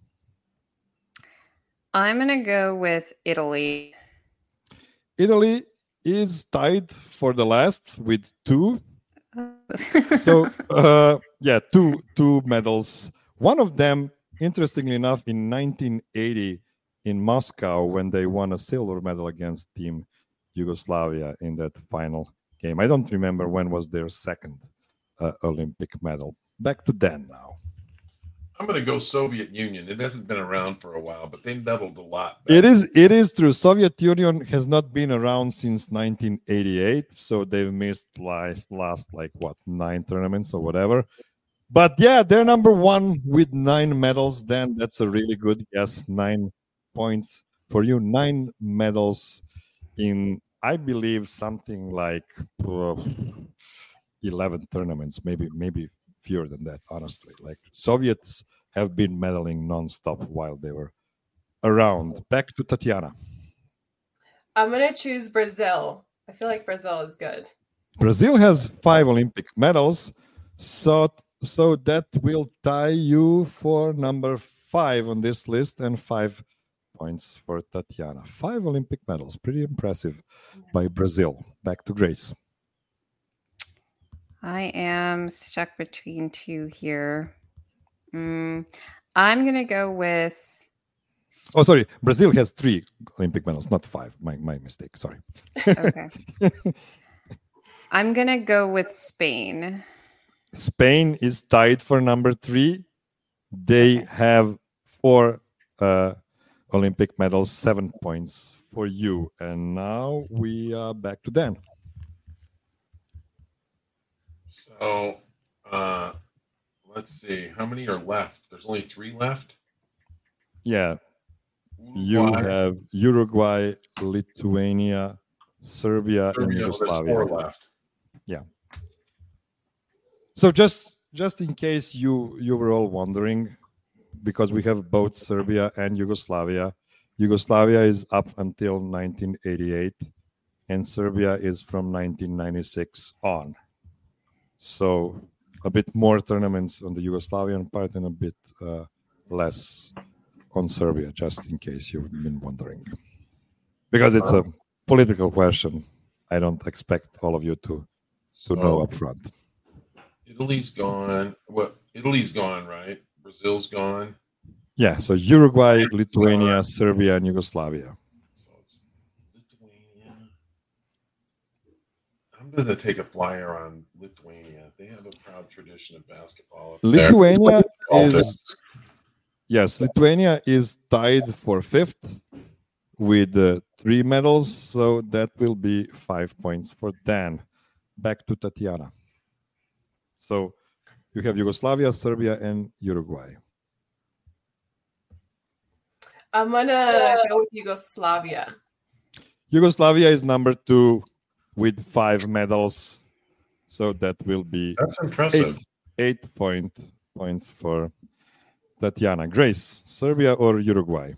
I'm gonna go with Italy. Italy is tied for the last with two. So, uh, yeah, two two medals. One of them, interestingly enough, in nineteen eighty in Moscow when they won a silver medal against Team Yugoslavia in that final game. I don't remember when was their second uh, Olympic medal. Back to Dan now. I'm going to go Soviet Union. It hasn't been around for a while, but they medaled a lot. It is it is true. Soviet Union has not been around since nineteen eighty-eight, so they've missed last, last like what nine tournaments or whatever. But yeah, they're number one with nine medals. Then that's a really good guess. Nine points for you nine medals in, I believe, something like uh, eleven tournaments, maybe maybe fewer than that, honestly. Like Soviets have been medaling nonstop while they were around. Back to Tatiana. I'm going to choose Brazil. I feel like Brazil is good. Brazil has five Olympic medals, so so that will tie you for number five on this list and five points for Tatiana. Five Olympic medals, pretty impressive by Brazil. Back to Grace. I am stuck between two here. Mm, I'm going to go with... Oh, sorry. Brazil has three Olympic medals, not five. My, my mistake. Sorry. Okay. I'm going to go with Spain. Spain is tied for number three. They Okay. have four uh, Olympic medals, seven points for you. And now we are back to Dan. So, uh, let's see. How many are left? There's only three left. Yeah. You Uruguay, have Uruguay, Lithuania, Serbia, and Serbia, there's Yugoslavia. four left. So just just in case you you were all wondering, because we have both Serbia and Yugoslavia. Yugoslavia is up until nineteen eighty-eight, and Serbia is from nineteen ninety-six on. So a bit more tournaments on the Yugoslavian part and a bit uh, less on Serbia, just in case you've been wondering. Because it's a political question, I don't expect all of you to to know So, up front. Italy's gone. What? Italy's gone, right? Brazil's gone. Yeah, so Uruguay, Lithuania, Serbia, and Yugoslavia. So it's Lithuania. I'm going to take a flyer on Lithuania. They have a proud tradition of basketball. up there. Lithuania Baltic. is yes, Lithuania is tied for fifth with uh, three medals, so that will be five points for Dan. Back to Tatiana. So you have Yugoslavia, Serbia, and Uruguay. I'm going to go with Yugoslavia. Yugoslavia is number two with five medals, so that will be That's impressive. eight, eight point points for Tatiana. Grace, Serbia or Uruguay?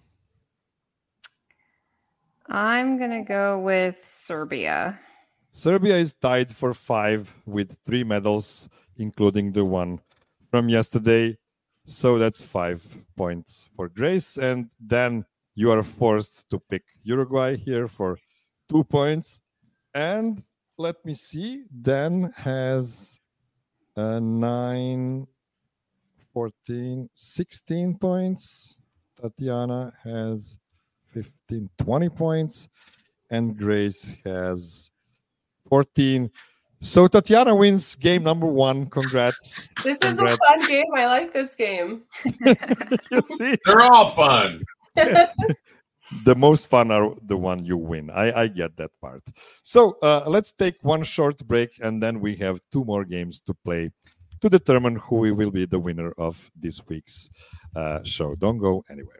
I'm going to go with Serbia. Serbia is tied for five with three medals, including the one from yesterday. So that's five points for Grace. And then you are forced to pick Uruguay here for two points. And let me see, Dan has uh, nine, fourteen, sixteen points. Tatiana has fifteen, twenty points. And Grace has fourteen. So Tatiana wins game number one. Congrats. This Congrats. is a fun game. I like this game. You see, They're all fun. the most fun are the one you win. I, I get that part. So uh, let's take one short break, and then we have two more games to play to determine who will be the winner of this week's uh, show. Don't go anywhere.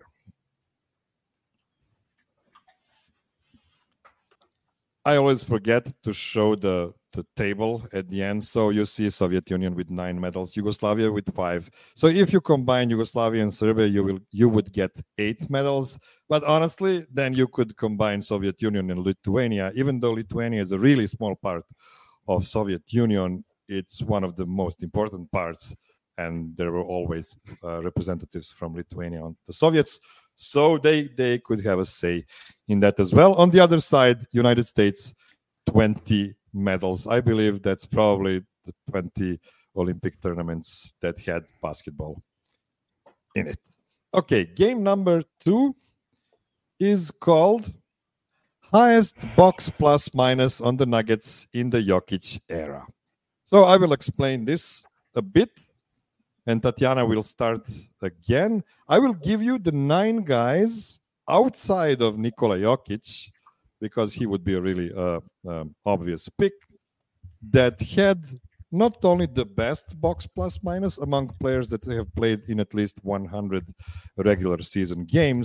I always forget to show the, the table at the end. So you see Soviet Union with nine medals, Yugoslavia with five. So if you combine Yugoslavia and Serbia, you will you would get eight medals. But honestly, then you could combine Soviet Union and Lithuania. Even though Lithuania is a really small part of Soviet Union, it's one of the most important parts. And there were always uh, representatives from Lithuania on the Soviets. So they, they could have a say in that as well. On the other side, United States, twenty medals. I believe that's probably the twenty Olympic tournaments that had basketball in it. Okay, game number two is called Highest Box Plus Minus on the Nuggets in the Jokic Era. So I will explain this a bit. And Tatiana will start again. I will give you the nine guys outside of Nikola Jokic, because he would be a really uh, um, obvious pick, that had not only the best box plus minus among players that have played in at least one hundred regular season games,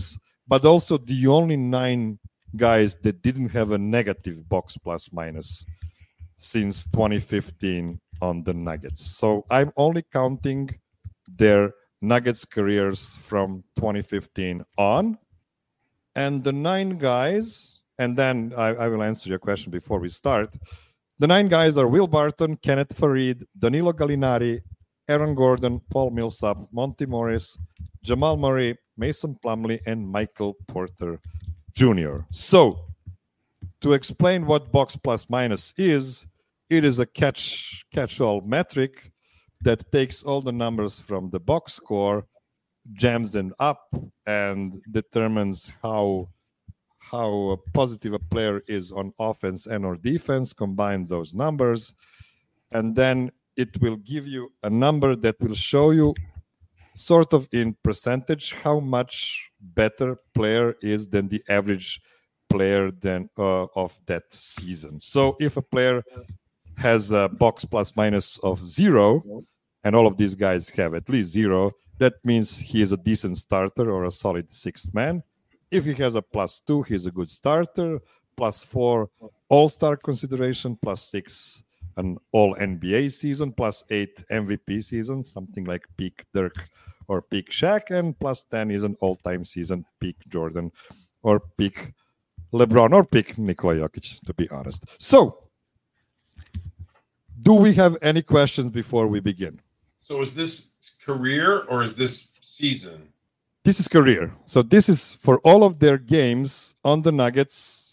but also the only nine guys that didn't have a negative box plus minus since twenty fifteen on the Nuggets. So I'm only counting their Nuggets careers from twenty fifteen on. And the nine guys, and then I, I will answer your question before we start. The nine guys are Will Barton, Kenneth Faried, Danilo Gallinari, Aaron Gordon, Paul Millsap, Monty Morris, Jamal Murray, Mason Plumlee, and Michael Porter Junior So, to explain what box plus minus is, it is a catch catch-all metric that takes all the numbers from the box score, jams them up, and determines how how positive a player is on offense and or defense. Combine those numbers, and then it will give you a number that will show you sort of in percentage how much better player is than the average player than uh, of that season. So if a player has a box plus minus of zero, and all of these guys have at least zero, that means he is a decent starter or a solid sixth man. If he has a plus two, he's a good starter. Plus four, all-star consideration. Plus six, an all-N B A season. Plus eight, M V P season, something like peak Dirk or peak Shaq. And plus ten is an all-time season, peak Jordan or peak LeBron or peak Nikola Jokic, to be honest. So, do we have any questions before we begin? So is this career or is this season? This is career. So this is for all of their games on the Nuggets,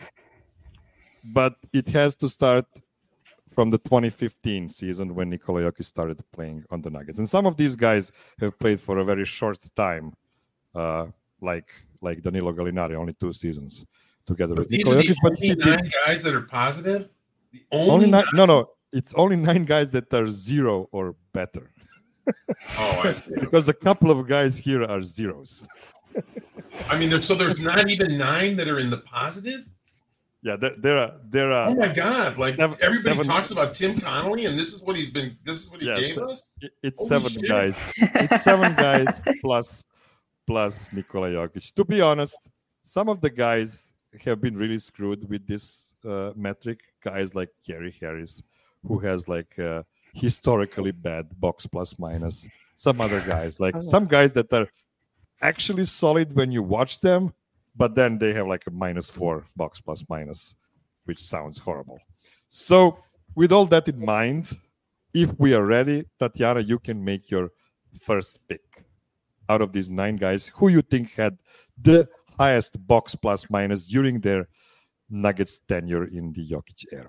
but it has to start from the twenty fifteen season when Nikola Jokic started playing on the Nuggets. And some of these guys have played for a very short time, uh, like like Danilo Gallinari, only two seasons together But with these Nikola are the Jokic. But only he nine did, guys that are positive? The only, only nine, nine? no, no, it's only nine guys that are zero or better. Oh, I see. Because a couple of guys here are zeros. I mean, there's, so there's not even nine that are in the positive? Yeah, there, there are there are. Oh my God! Like seven- everybody seven- talks about Tim Connolly, and this is what he's been. This is what he Yeah, gave so us. it- it's Holy seven shit. guys. It's seven guys plus plus Nikola Jokic. To be honest, some of the guys have been really screwed with this uh, metric. Guys like Gary Harris, who has like uh, historically bad box plus minus. Some other guys, like Oh. some guys that are actually solid when you watch them, but then they have like a minus four box plus minus, which sounds horrible. So with all that in mind, if we are ready, Tatiana, you can make your first pick out of these nine guys. Who you think had the highest box plus minus during their Nuggets tenure in the Jokic era?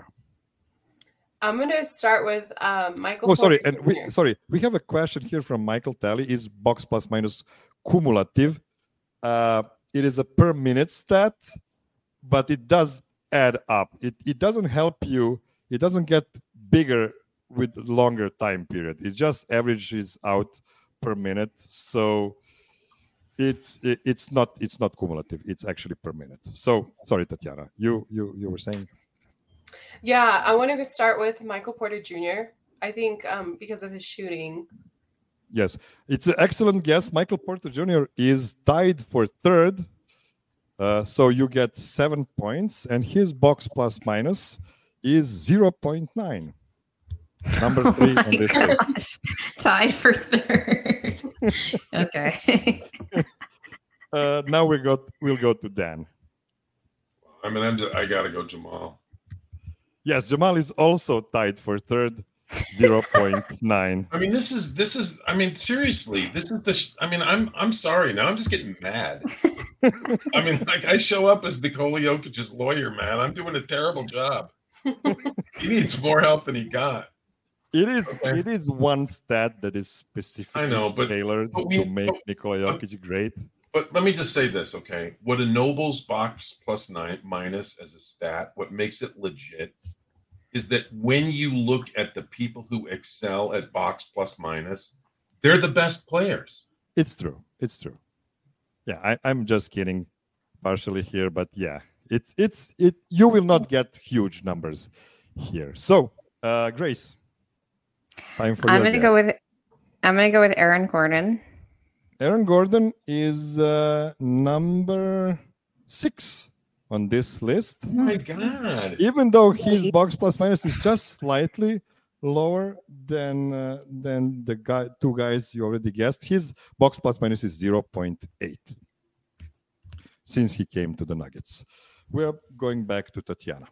I'm going to start with um, Michael. Oh, sorry, Porter and we Junior sorry, we have a question here from Michael Talley. Is box plus minus cumulative? Uh, it is a per minute stat, but it does add up. It it doesn't help you. It doesn't get bigger with longer time period. It just averages out per minute. So it, it it's not it's not cumulative. It's actually per minute. So sorry, Tatiana, you you you were saying. Yeah, I want to start with Michael Porter Junior I think um, because of his shooting. Yes, it's an excellent guess. Michael Porter Junior is tied for third. Uh, so you get seven points, and his box plus minus is zero point nine. Number three Oh on my this gosh. list. Tied for third. Okay. Uh, now we got we'll go to Dan. I mean, I'm just, I gotta go Jamal. Yes, Jamal is also tied for third, zero point nine. I mean, this is this is. I mean, seriously, this is the. Sh- I mean, I'm I'm sorry. Now I'm just getting mad. I mean, like I show up as Nikola Jokic's lawyer, man. I'm doing a terrible job. He needs more help than he got. It is Okay. it is one stat that is specifically I know, but- tailored but we- to make but- Nikola but- Jokic great. But let me just say this, okay? What a Noble's box plus nine minus as a stat, what makes it legit is that when you look at the people who excel at box plus minus, they're the best players. It's true. It's true. Yeah, I, I'm just kidding partially here, but yeah, it's it's it. You will not get huge numbers here. So, uh, Grace, time for I'm your gonna guess. go with I'm gonna go with Aaron Gordon. Aaron Gordon is uh, number six on this list. Oh my God. Even though his box plus minus is just slightly lower than uh, than the guy, two guys you already guessed, his box plus minus is zero point eight since he came to the Nuggets. We're going back to Tatiana.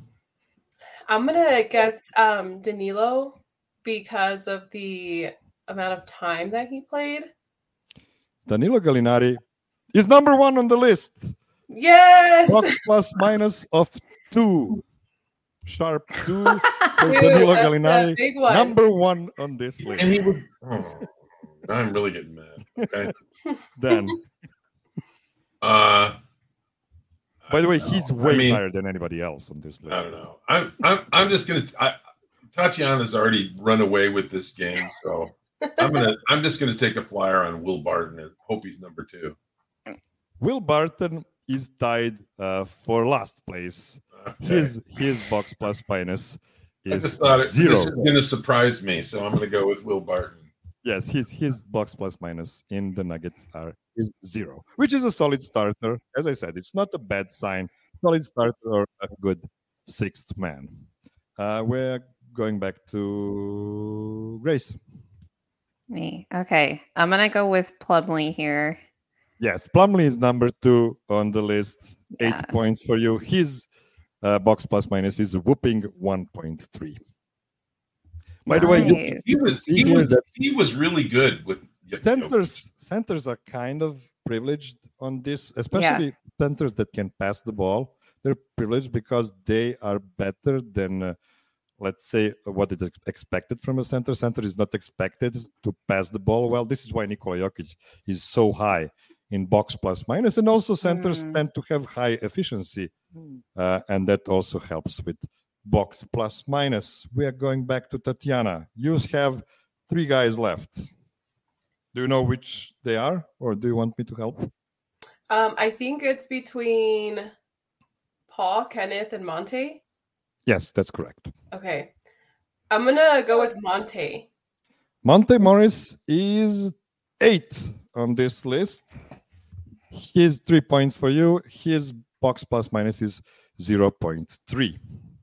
I'm gonna guess um, Danilo because of the amount of time that he played. Danilo Gallinari is number one on the list. Yes. Box plus minus of two. Sharp two for Dude, Danilo that's a Gallinari. big one. Number one on this list. And he would. Oh, I'm really getting mad. Okay. Dan. Uh, By the way, I don't he's know. way I mean, higher than anybody else on this list. I don't know. I'm. I'm. I'm just gonna. I, Tatiana's already run away with this game, so I'm gonna. I'm just gonna take a flyer on Will Barton and hope he's number two. Will Barton is tied uh, for last place. Okay. His his box plus minus I is just thought it, zero. this is gonna surprise me, so I'm gonna go with Will Barton. Yes, his his box plus minus in the Nuggets are is zero, which is a solid starter. As I said, it's not a bad sign. Solid starter or a good sixth man. Uh, we're going back to Grace. Me. Okay. I'm going to go with Plumlee here. Yes, Plumlee is number two on the list. Eight Yeah. points for you. His uh, box plus minus is a whooping one point three. By the way, you Nice. He was. see He here was. that He was really good with centers centers are kind of privileged on this, especially centers that can pass the ball. They're privileged because they are better than uh, let's say what is expected from a center. Center is not expected to pass the ball well. This is why Nikola Jokic is so high in box plus minus, and also centers Mm. tend to have high efficiency, uh, and that also helps with box plus minus. We are going back to Tatiana. You have three guys left. Do you know which they are, or do you want me to help? Um, I think it's between Paul, Kenneth, and Monte. Yes, that's correct. Okay. I'm gonna go with Monte. Monte Morris is eighth on this list. His three points for you. His box plus minus is zero point three.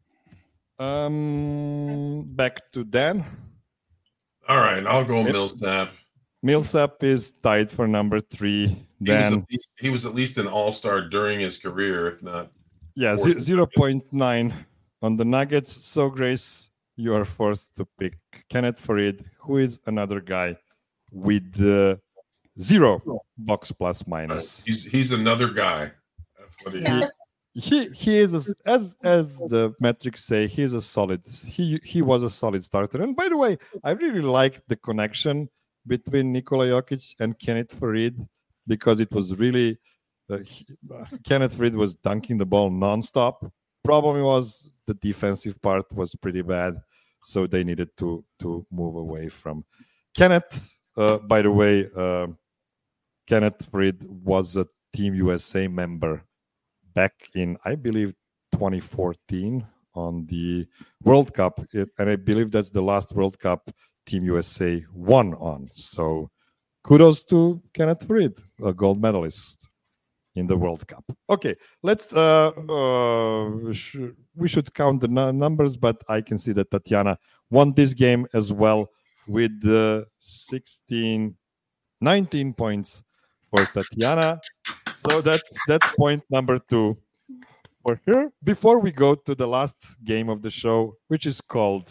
Um, back to Dan. All right, I'll go Yep. Millsap. Millsap is tied for number three. He was, Dan, at least, he was at least an all-star during his career, if not. yeah, fourth. zero point nine on the Nuggets. So, Grace, you are forced to pick Kenneth Farid, who is another guy with uh, zero box plus minus. He's he's another guy. That's what he Yeah. is. He he is a, as as the metrics say, he is a solid. He he was a solid starter. And by the way, I really like the connection between Nikola Jokic and Kenneth Farid because it was really uh, he, uh, Kenneth Farid was dunking the ball nonstop. Problem was the defensive part was pretty bad, so they needed to to move away from Kenneth. Uh, by the way, uh, Kenneth Farid was a Team U S A member back in, I believe, twenty fourteen on the World Cup. It, and I believe that's the last World Cup Team U S A won on. So kudos to Kenneth Farid, a gold medalist in the World Cup. Okay, let's, uh, uh, sh- we should count the n- numbers, but I can see that Tatiana won this game as well with uh, sixteen, nineteen points for Tatiana. So that's that's point number two for her. Before we go to the last game of the show, which is called,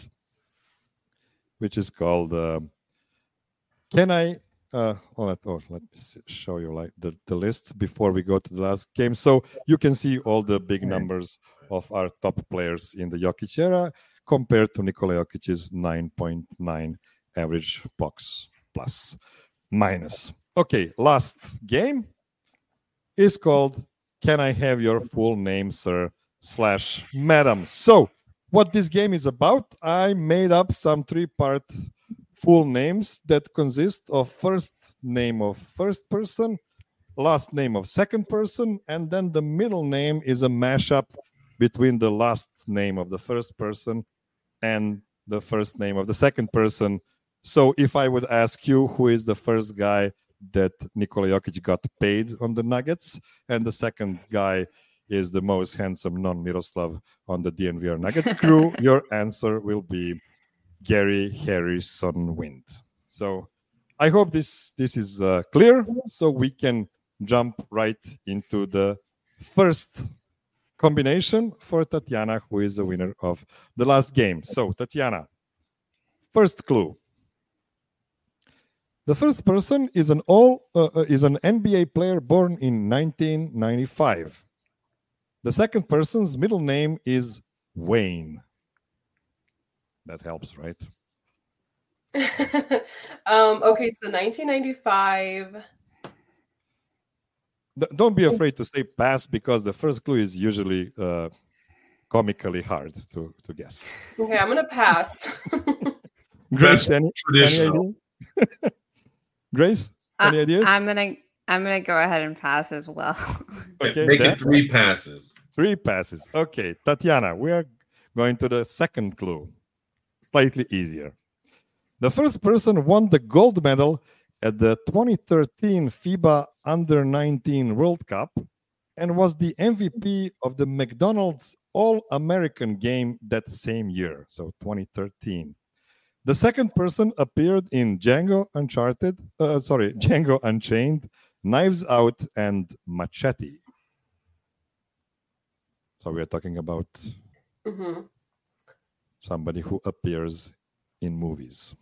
which is called, uh, can I? Uh, oh, let, oh, let me see, show you like the, the list before we go to the last game, so you can see all the big numbers of our top players in the Jokic era compared to Nikola Jokic's nine point nine average box plus minus. Okay, last game is called Can I Have Your Full Name, Sir, slash Madam. So what this game is about, I made up some three-part full names that consist of first name of first person, last name of second person, and then the middle name is a mashup between the last name of the first person and the first name of the second person. So if I would ask you who is the first guy that Nikola Jokic got paid on the Nuggets, and the second guy is the most handsome non-Miroslav on the D N V R Nuggets crew. Your answer will be Gary Harrison Wind. So I hope this this is uh, clear, so we can jump right into the first combination for Tatiana, who is the winner of the last game. So Tatiana, first clue. The first person is an all uh, is an N B A player born in nineteen ninety-five. The second person's middle name is Wayne. That helps, right? um, okay, so nineteen ninety-five. D- don't be afraid to say pass, because the first clue is usually uh, comically hard to, to guess. Okay, I'm gonna pass. Grace, any, any Traditional. idea? Grace, any Uh, ideas? I'm gonna I'm gonna go ahead and pass as well. Okay, Make Dan? it three passes. Three passes. Okay, Tatiana, we are going to the second clue. Slightly easier. The first person won the gold medal at the twenty thirteen FIBA Under nineteen World Cup and was the M V P of the McDonald's All-American game that same year, so twenty thirteen. The second person appeared in Django Uncharted, uh, sorry, Django Unchained, Knives Out, and Machete. So we are talking about hmm somebody who appears in movies.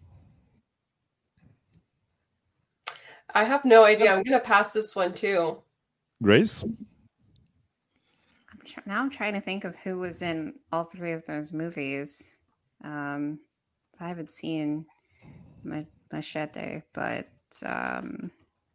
I have no idea. I'm gonna pass this one too. Grace? I'm tr- now I'm trying to think of who was in all three of those movies. Um, I haven't seen Ma- Machete, but um,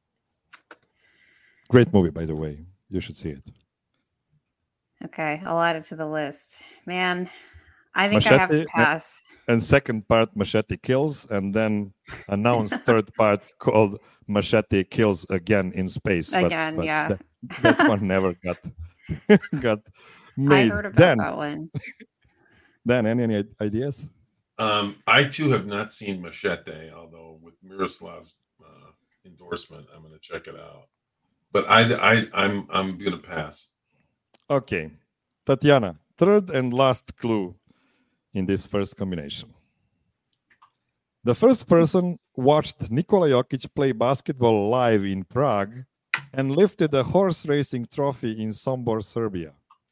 Great movie, by the way. You should see it. okay, I'll add it to the list. Man, I think I have to Machete, pass. And second part, Machete Kills, and then announced third part called Machete Kills Again in Space. But- Again, but yeah. That, that one never got got I made. heard about Dan, that one. Dan, any, any ideas? Um, I too have not seen Machete, although with Miroslav's uh, endorsement, I'm going to check it out. But I, I, I'm, I'm going to pass. Okay. Tatiana, third and last clue in this first combination. The first person watched Nikola Jokic play basketball live in Prague and lifted a horse racing trophy in Sombor, Serbia.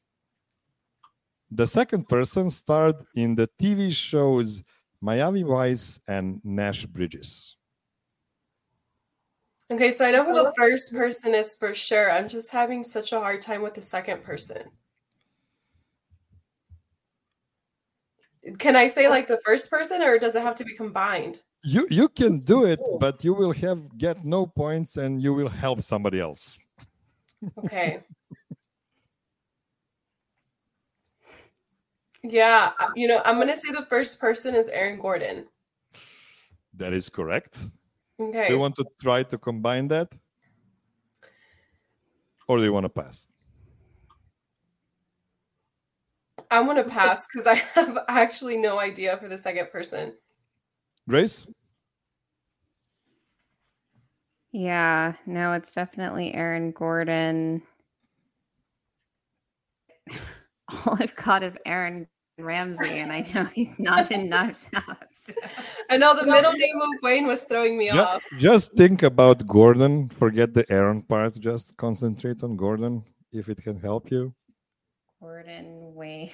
The second person starred in the T V shows Miami Vice and Nash Bridges. Okay, so I know who the first person is for sure. I'm just having such a hard time with the second person. Can I say like the first person, or does it have to be combined? You you can do it, but you will have get no points and you will help somebody else. Okay. Yeah, you know, I'm gonna say the first person is Aaron Gordon. That is correct. Okay. Do you want to try to combine that? Or do you want to pass? I want to pass because I have actually no idea for the second person. Grace? Yeah, no, it's definitely Aaron Gordon. All I've got is Aaron Ramsey, and I know he's not in Knives Out. So. I know the middle name of Wayne was throwing me Ju- off. Just think about Gordon. Forget the Aaron part. Just concentrate on Gordon if it can help you. Gordon Wayne.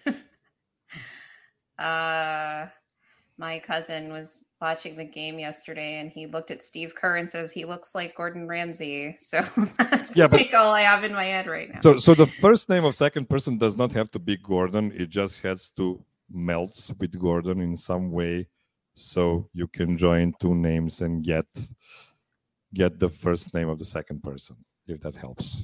uh, my cousin was watching the game yesterday, and he looked at Steve Kerr and says he looks like Gordon Ramsay. So that's Yeah, but- like all I have in my head right now. So, so the first name of second person does not have to be Gordon. It just has to melt with Gordon in some way, so you can join two names and get get the first name of the second person, if that helps.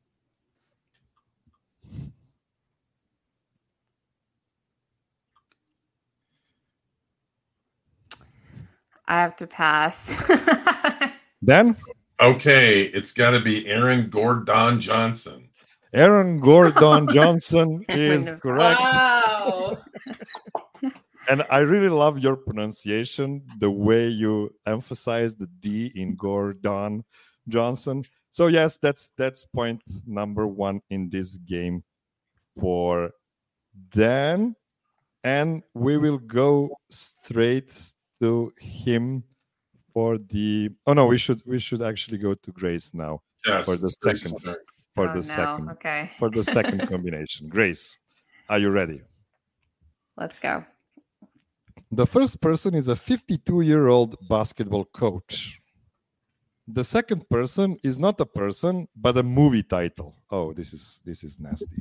I have to pass. Then Okay, it's got to be Aaron Gordon Johnson. Aaron Gordon Johnson I is wouldn't have- correct. Wow. And I really love your pronunciation, the way you emphasize the D in Gordon Johnson. So yes, that's that's point number one in this game for Dan. And we will go straight to him for the. Oh no, we should we should actually go to Grace now Yes, for the Grace's second turn. for Oh, the no. second Okay. for the second combination. Grace, are you ready? Let's go. The first person is a fifty-two-year-old basketball coach. The second person is not a person, but a movie title. Oh, this is this is nasty.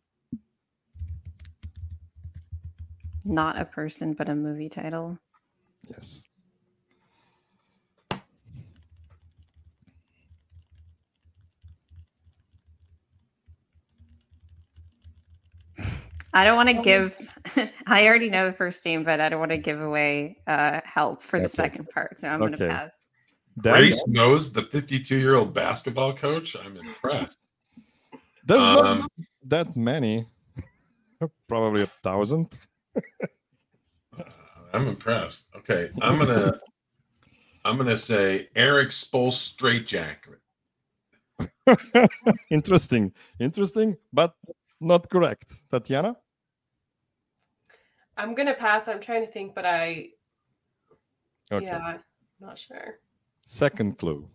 Not a person, but a movie title. Yes. I don't want to give. I already know the first name, but I don't want to give away uh, help for the Okay. second part. So I'm going Okay. to pass. Dan, Grace knows the fifty-two-year-old basketball coach. I'm impressed. there's not Um, that many. Probably a thousand. Uh, I'm impressed. Okay, I'm gonna I'm gonna say Eric Spoelstra. Interesting. Interesting, but not correct. Tatiana? I'm gonna pass. I'm trying to think, but I Okay. yeah, not sure. Second clue.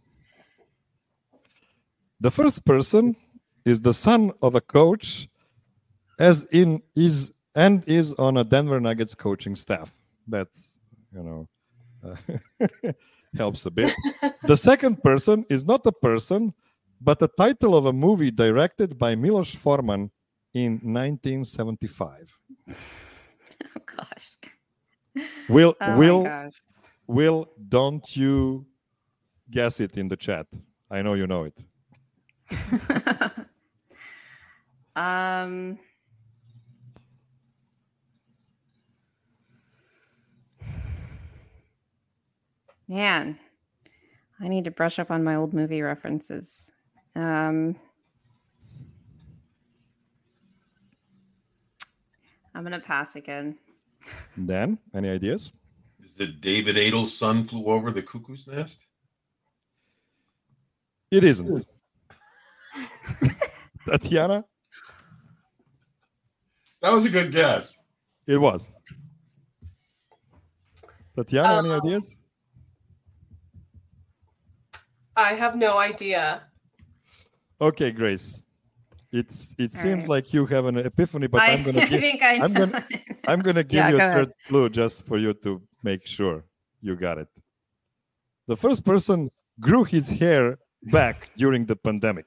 The first person is the son of a coach, as in is and is on a Denver Nuggets coaching staff. That, you know, uh, helps a bit. The second person is not a person, but the title of a movie directed by Milos Forman in nineteen seventy-five. Oh gosh. Will Oh Will my gosh. Will don't you guess it in the chat? I know you know it. um. Man, I need to brush up on my old movie references. Um, I'm gonna pass again. Dan, any ideas? Is it David Adel's son flew over the cuckoo's nest? It isn't. Tatiana, That was a good guess. it was. Tatiana, any Um, ideas? I have no idea. Okay, Grace. It's it All seems right. like you have an epiphany, but I, I'm gonna I give think I know. I'm gonna- I'm gonna give Yeah, you go a ahead. third clue just for you to make sure you got it. The first person grew his hair back during the pandemic.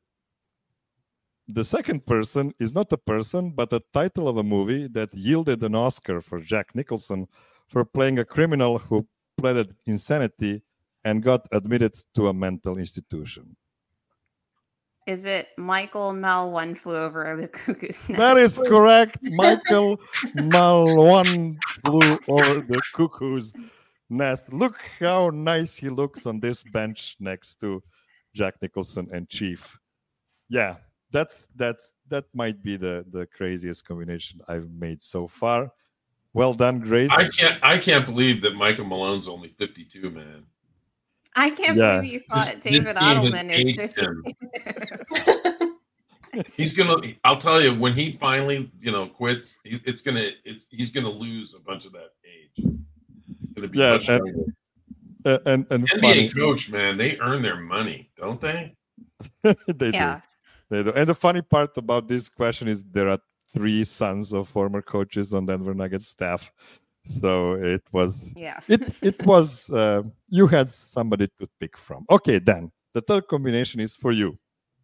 The second person is not a person, but a title of a movie that yielded an Oscar for Jack Nicholson for playing a criminal who pleaded insanity and got admitted to a mental institution. Is it Michael Mel One Flew Over the Cuckoo's Nest? That is correct. Michael Malone flew over the cuckoo's nest. Look how nice he looks on this bench next to Jack Nicholson and Chief. Yeah, that's that's that might be the the craziest combination I've made so far. Well done, Grace. I can't I can't believe that Michael Malone's only fifty-two, man. I can't Yeah. believe you This- thought this David team has Adelman is aged fifty. him. He's gonna. I'll tell you, when he finally, you know, quits, he's it's gonna. It's he's gonna lose a bunch of that age. It's gonna be Yeah, much and- younger. Uh, and and N B A funny, coach, man, they earn their money, don't they? they Yeah. do. They do. And the funny part about this question is there are three sons of former coaches on Denver Nuggets staff, so it was Yeah. it it was uh, you had somebody to pick from. Okay, Dan, the third combination is for you.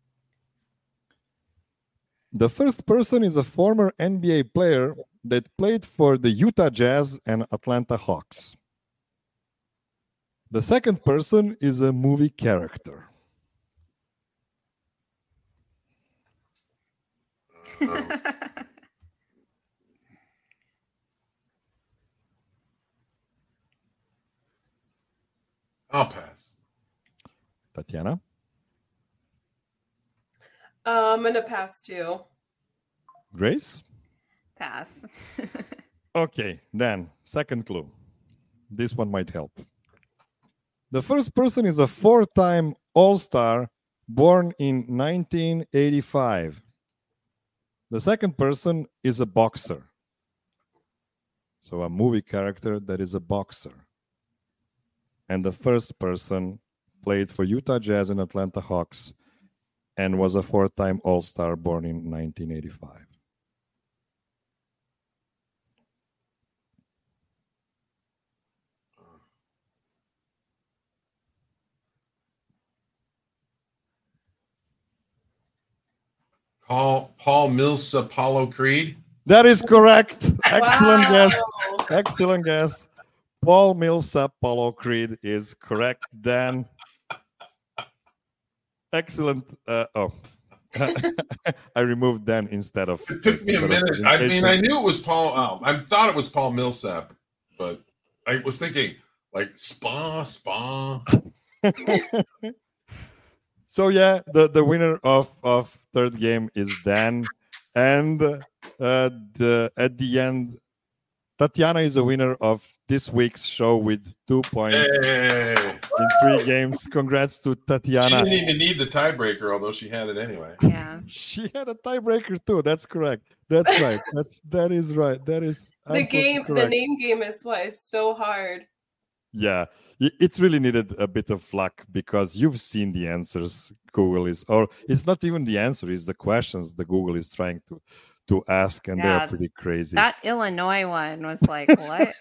The first person is a former N B A player that played for the Utah Jazz and Atlanta Hawks. The second person is a movie character. Um, I'll pass. Tatiana? Uh, I'm gonna pass too. Grace? Pass. Okay, then, second clue. This one might help. The first person is a four-time All-Star born in nineteen eighty-five. The second person is a boxer. So a movie character that is a boxer. And the first person played for Utah Jazz and Atlanta Hawks and was a four-time All-Star born in nineteen eighty-five. Paul Paul Mills Apollo Creed. That is correct. Excellent Wow. guess. Excellent guess. Paul Millsap Apollo Creed is correct. Dan. Excellent. Uh, oh, I removed Dan instead of. It took me a minute. I mean, I knew it was Paul. Oh, I thought it was Paul Millsap, but I was thinking like spa, spa. So yeah, the, the winner of, of third game is Dan, and uh, the at the end, Tatiana is a winner of this week's show with two points Hey. in three games. Congrats to She Tatiana. didn't even need the tiebreaker, although she had it anyway. Yeah. She had a tiebreaker too. That's correct. That's right. That's that is right. That is The absolutely game, correct. the name game is what is so hard. Yeah, it it really needed a bit of luck because you've seen the answers Google is, or it's not even the answer, it's the questions the Google is trying to to ask, and Yeah, they're pretty crazy. That Illinois one was like, what?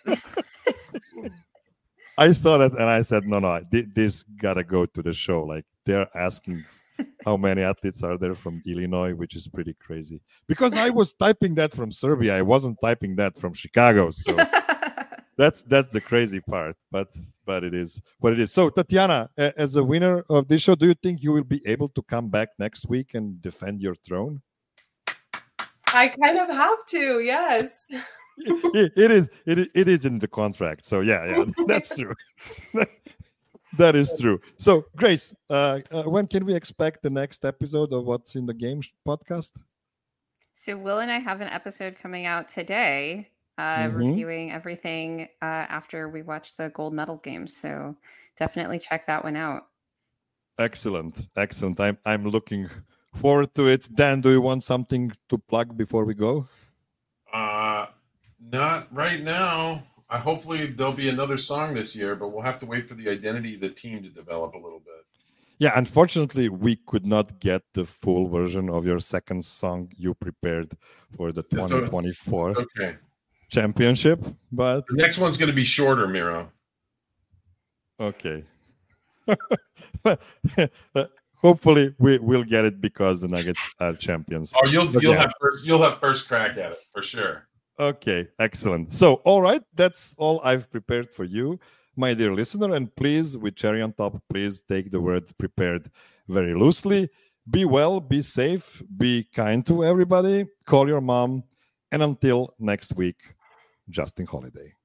I saw that and I said, no, no, thi- this gotta go to the show. Like they're asking how many athletes are there from Illinois, which is pretty crazy. Because I was typing that from Serbia, I wasn't typing that from Chicago, so. That's that's the crazy part, but but it is what it is. So Tatiana, a- as a winner of this show, do you think you will be able to come back next week and defend your throne? I kind of have to, yes. it, it is it, i- it is in the contract. So yeah, yeah, that's true. That is true. So Grace, uh, uh, when can we expect the next episode of What's in the Game sh- podcast? So Will and I have an episode coming out today, uh, Mhm. reviewing everything uh, after we watched the gold medal games. So definitely check that one out. Excellent, excellent. I'm I'm looking forward to it. Dan, do you want something to plug before we go? Uh, not right now. I hopefully there'll be another song this year, but we'll have to wait for the identity of the team to develop a little bit. Yeah, unfortunately, we could not get the full version of your second song you prepared for the That's twenty twenty-four Okay. championship, but The next one's going to be shorter, Miro. okay. Hopefully, we will get it because the Nuggets are champions. Oh, you'll But you'll yeah. have first you'll have first crack at it for sure. Okay, excellent. So, all right, that's all I've prepared for you, my dear listener. And please, with cherry on top, please take the word prepared very loosely. Be well, be safe, be kind to everybody, call your mom, and until next week, Justin Holiday.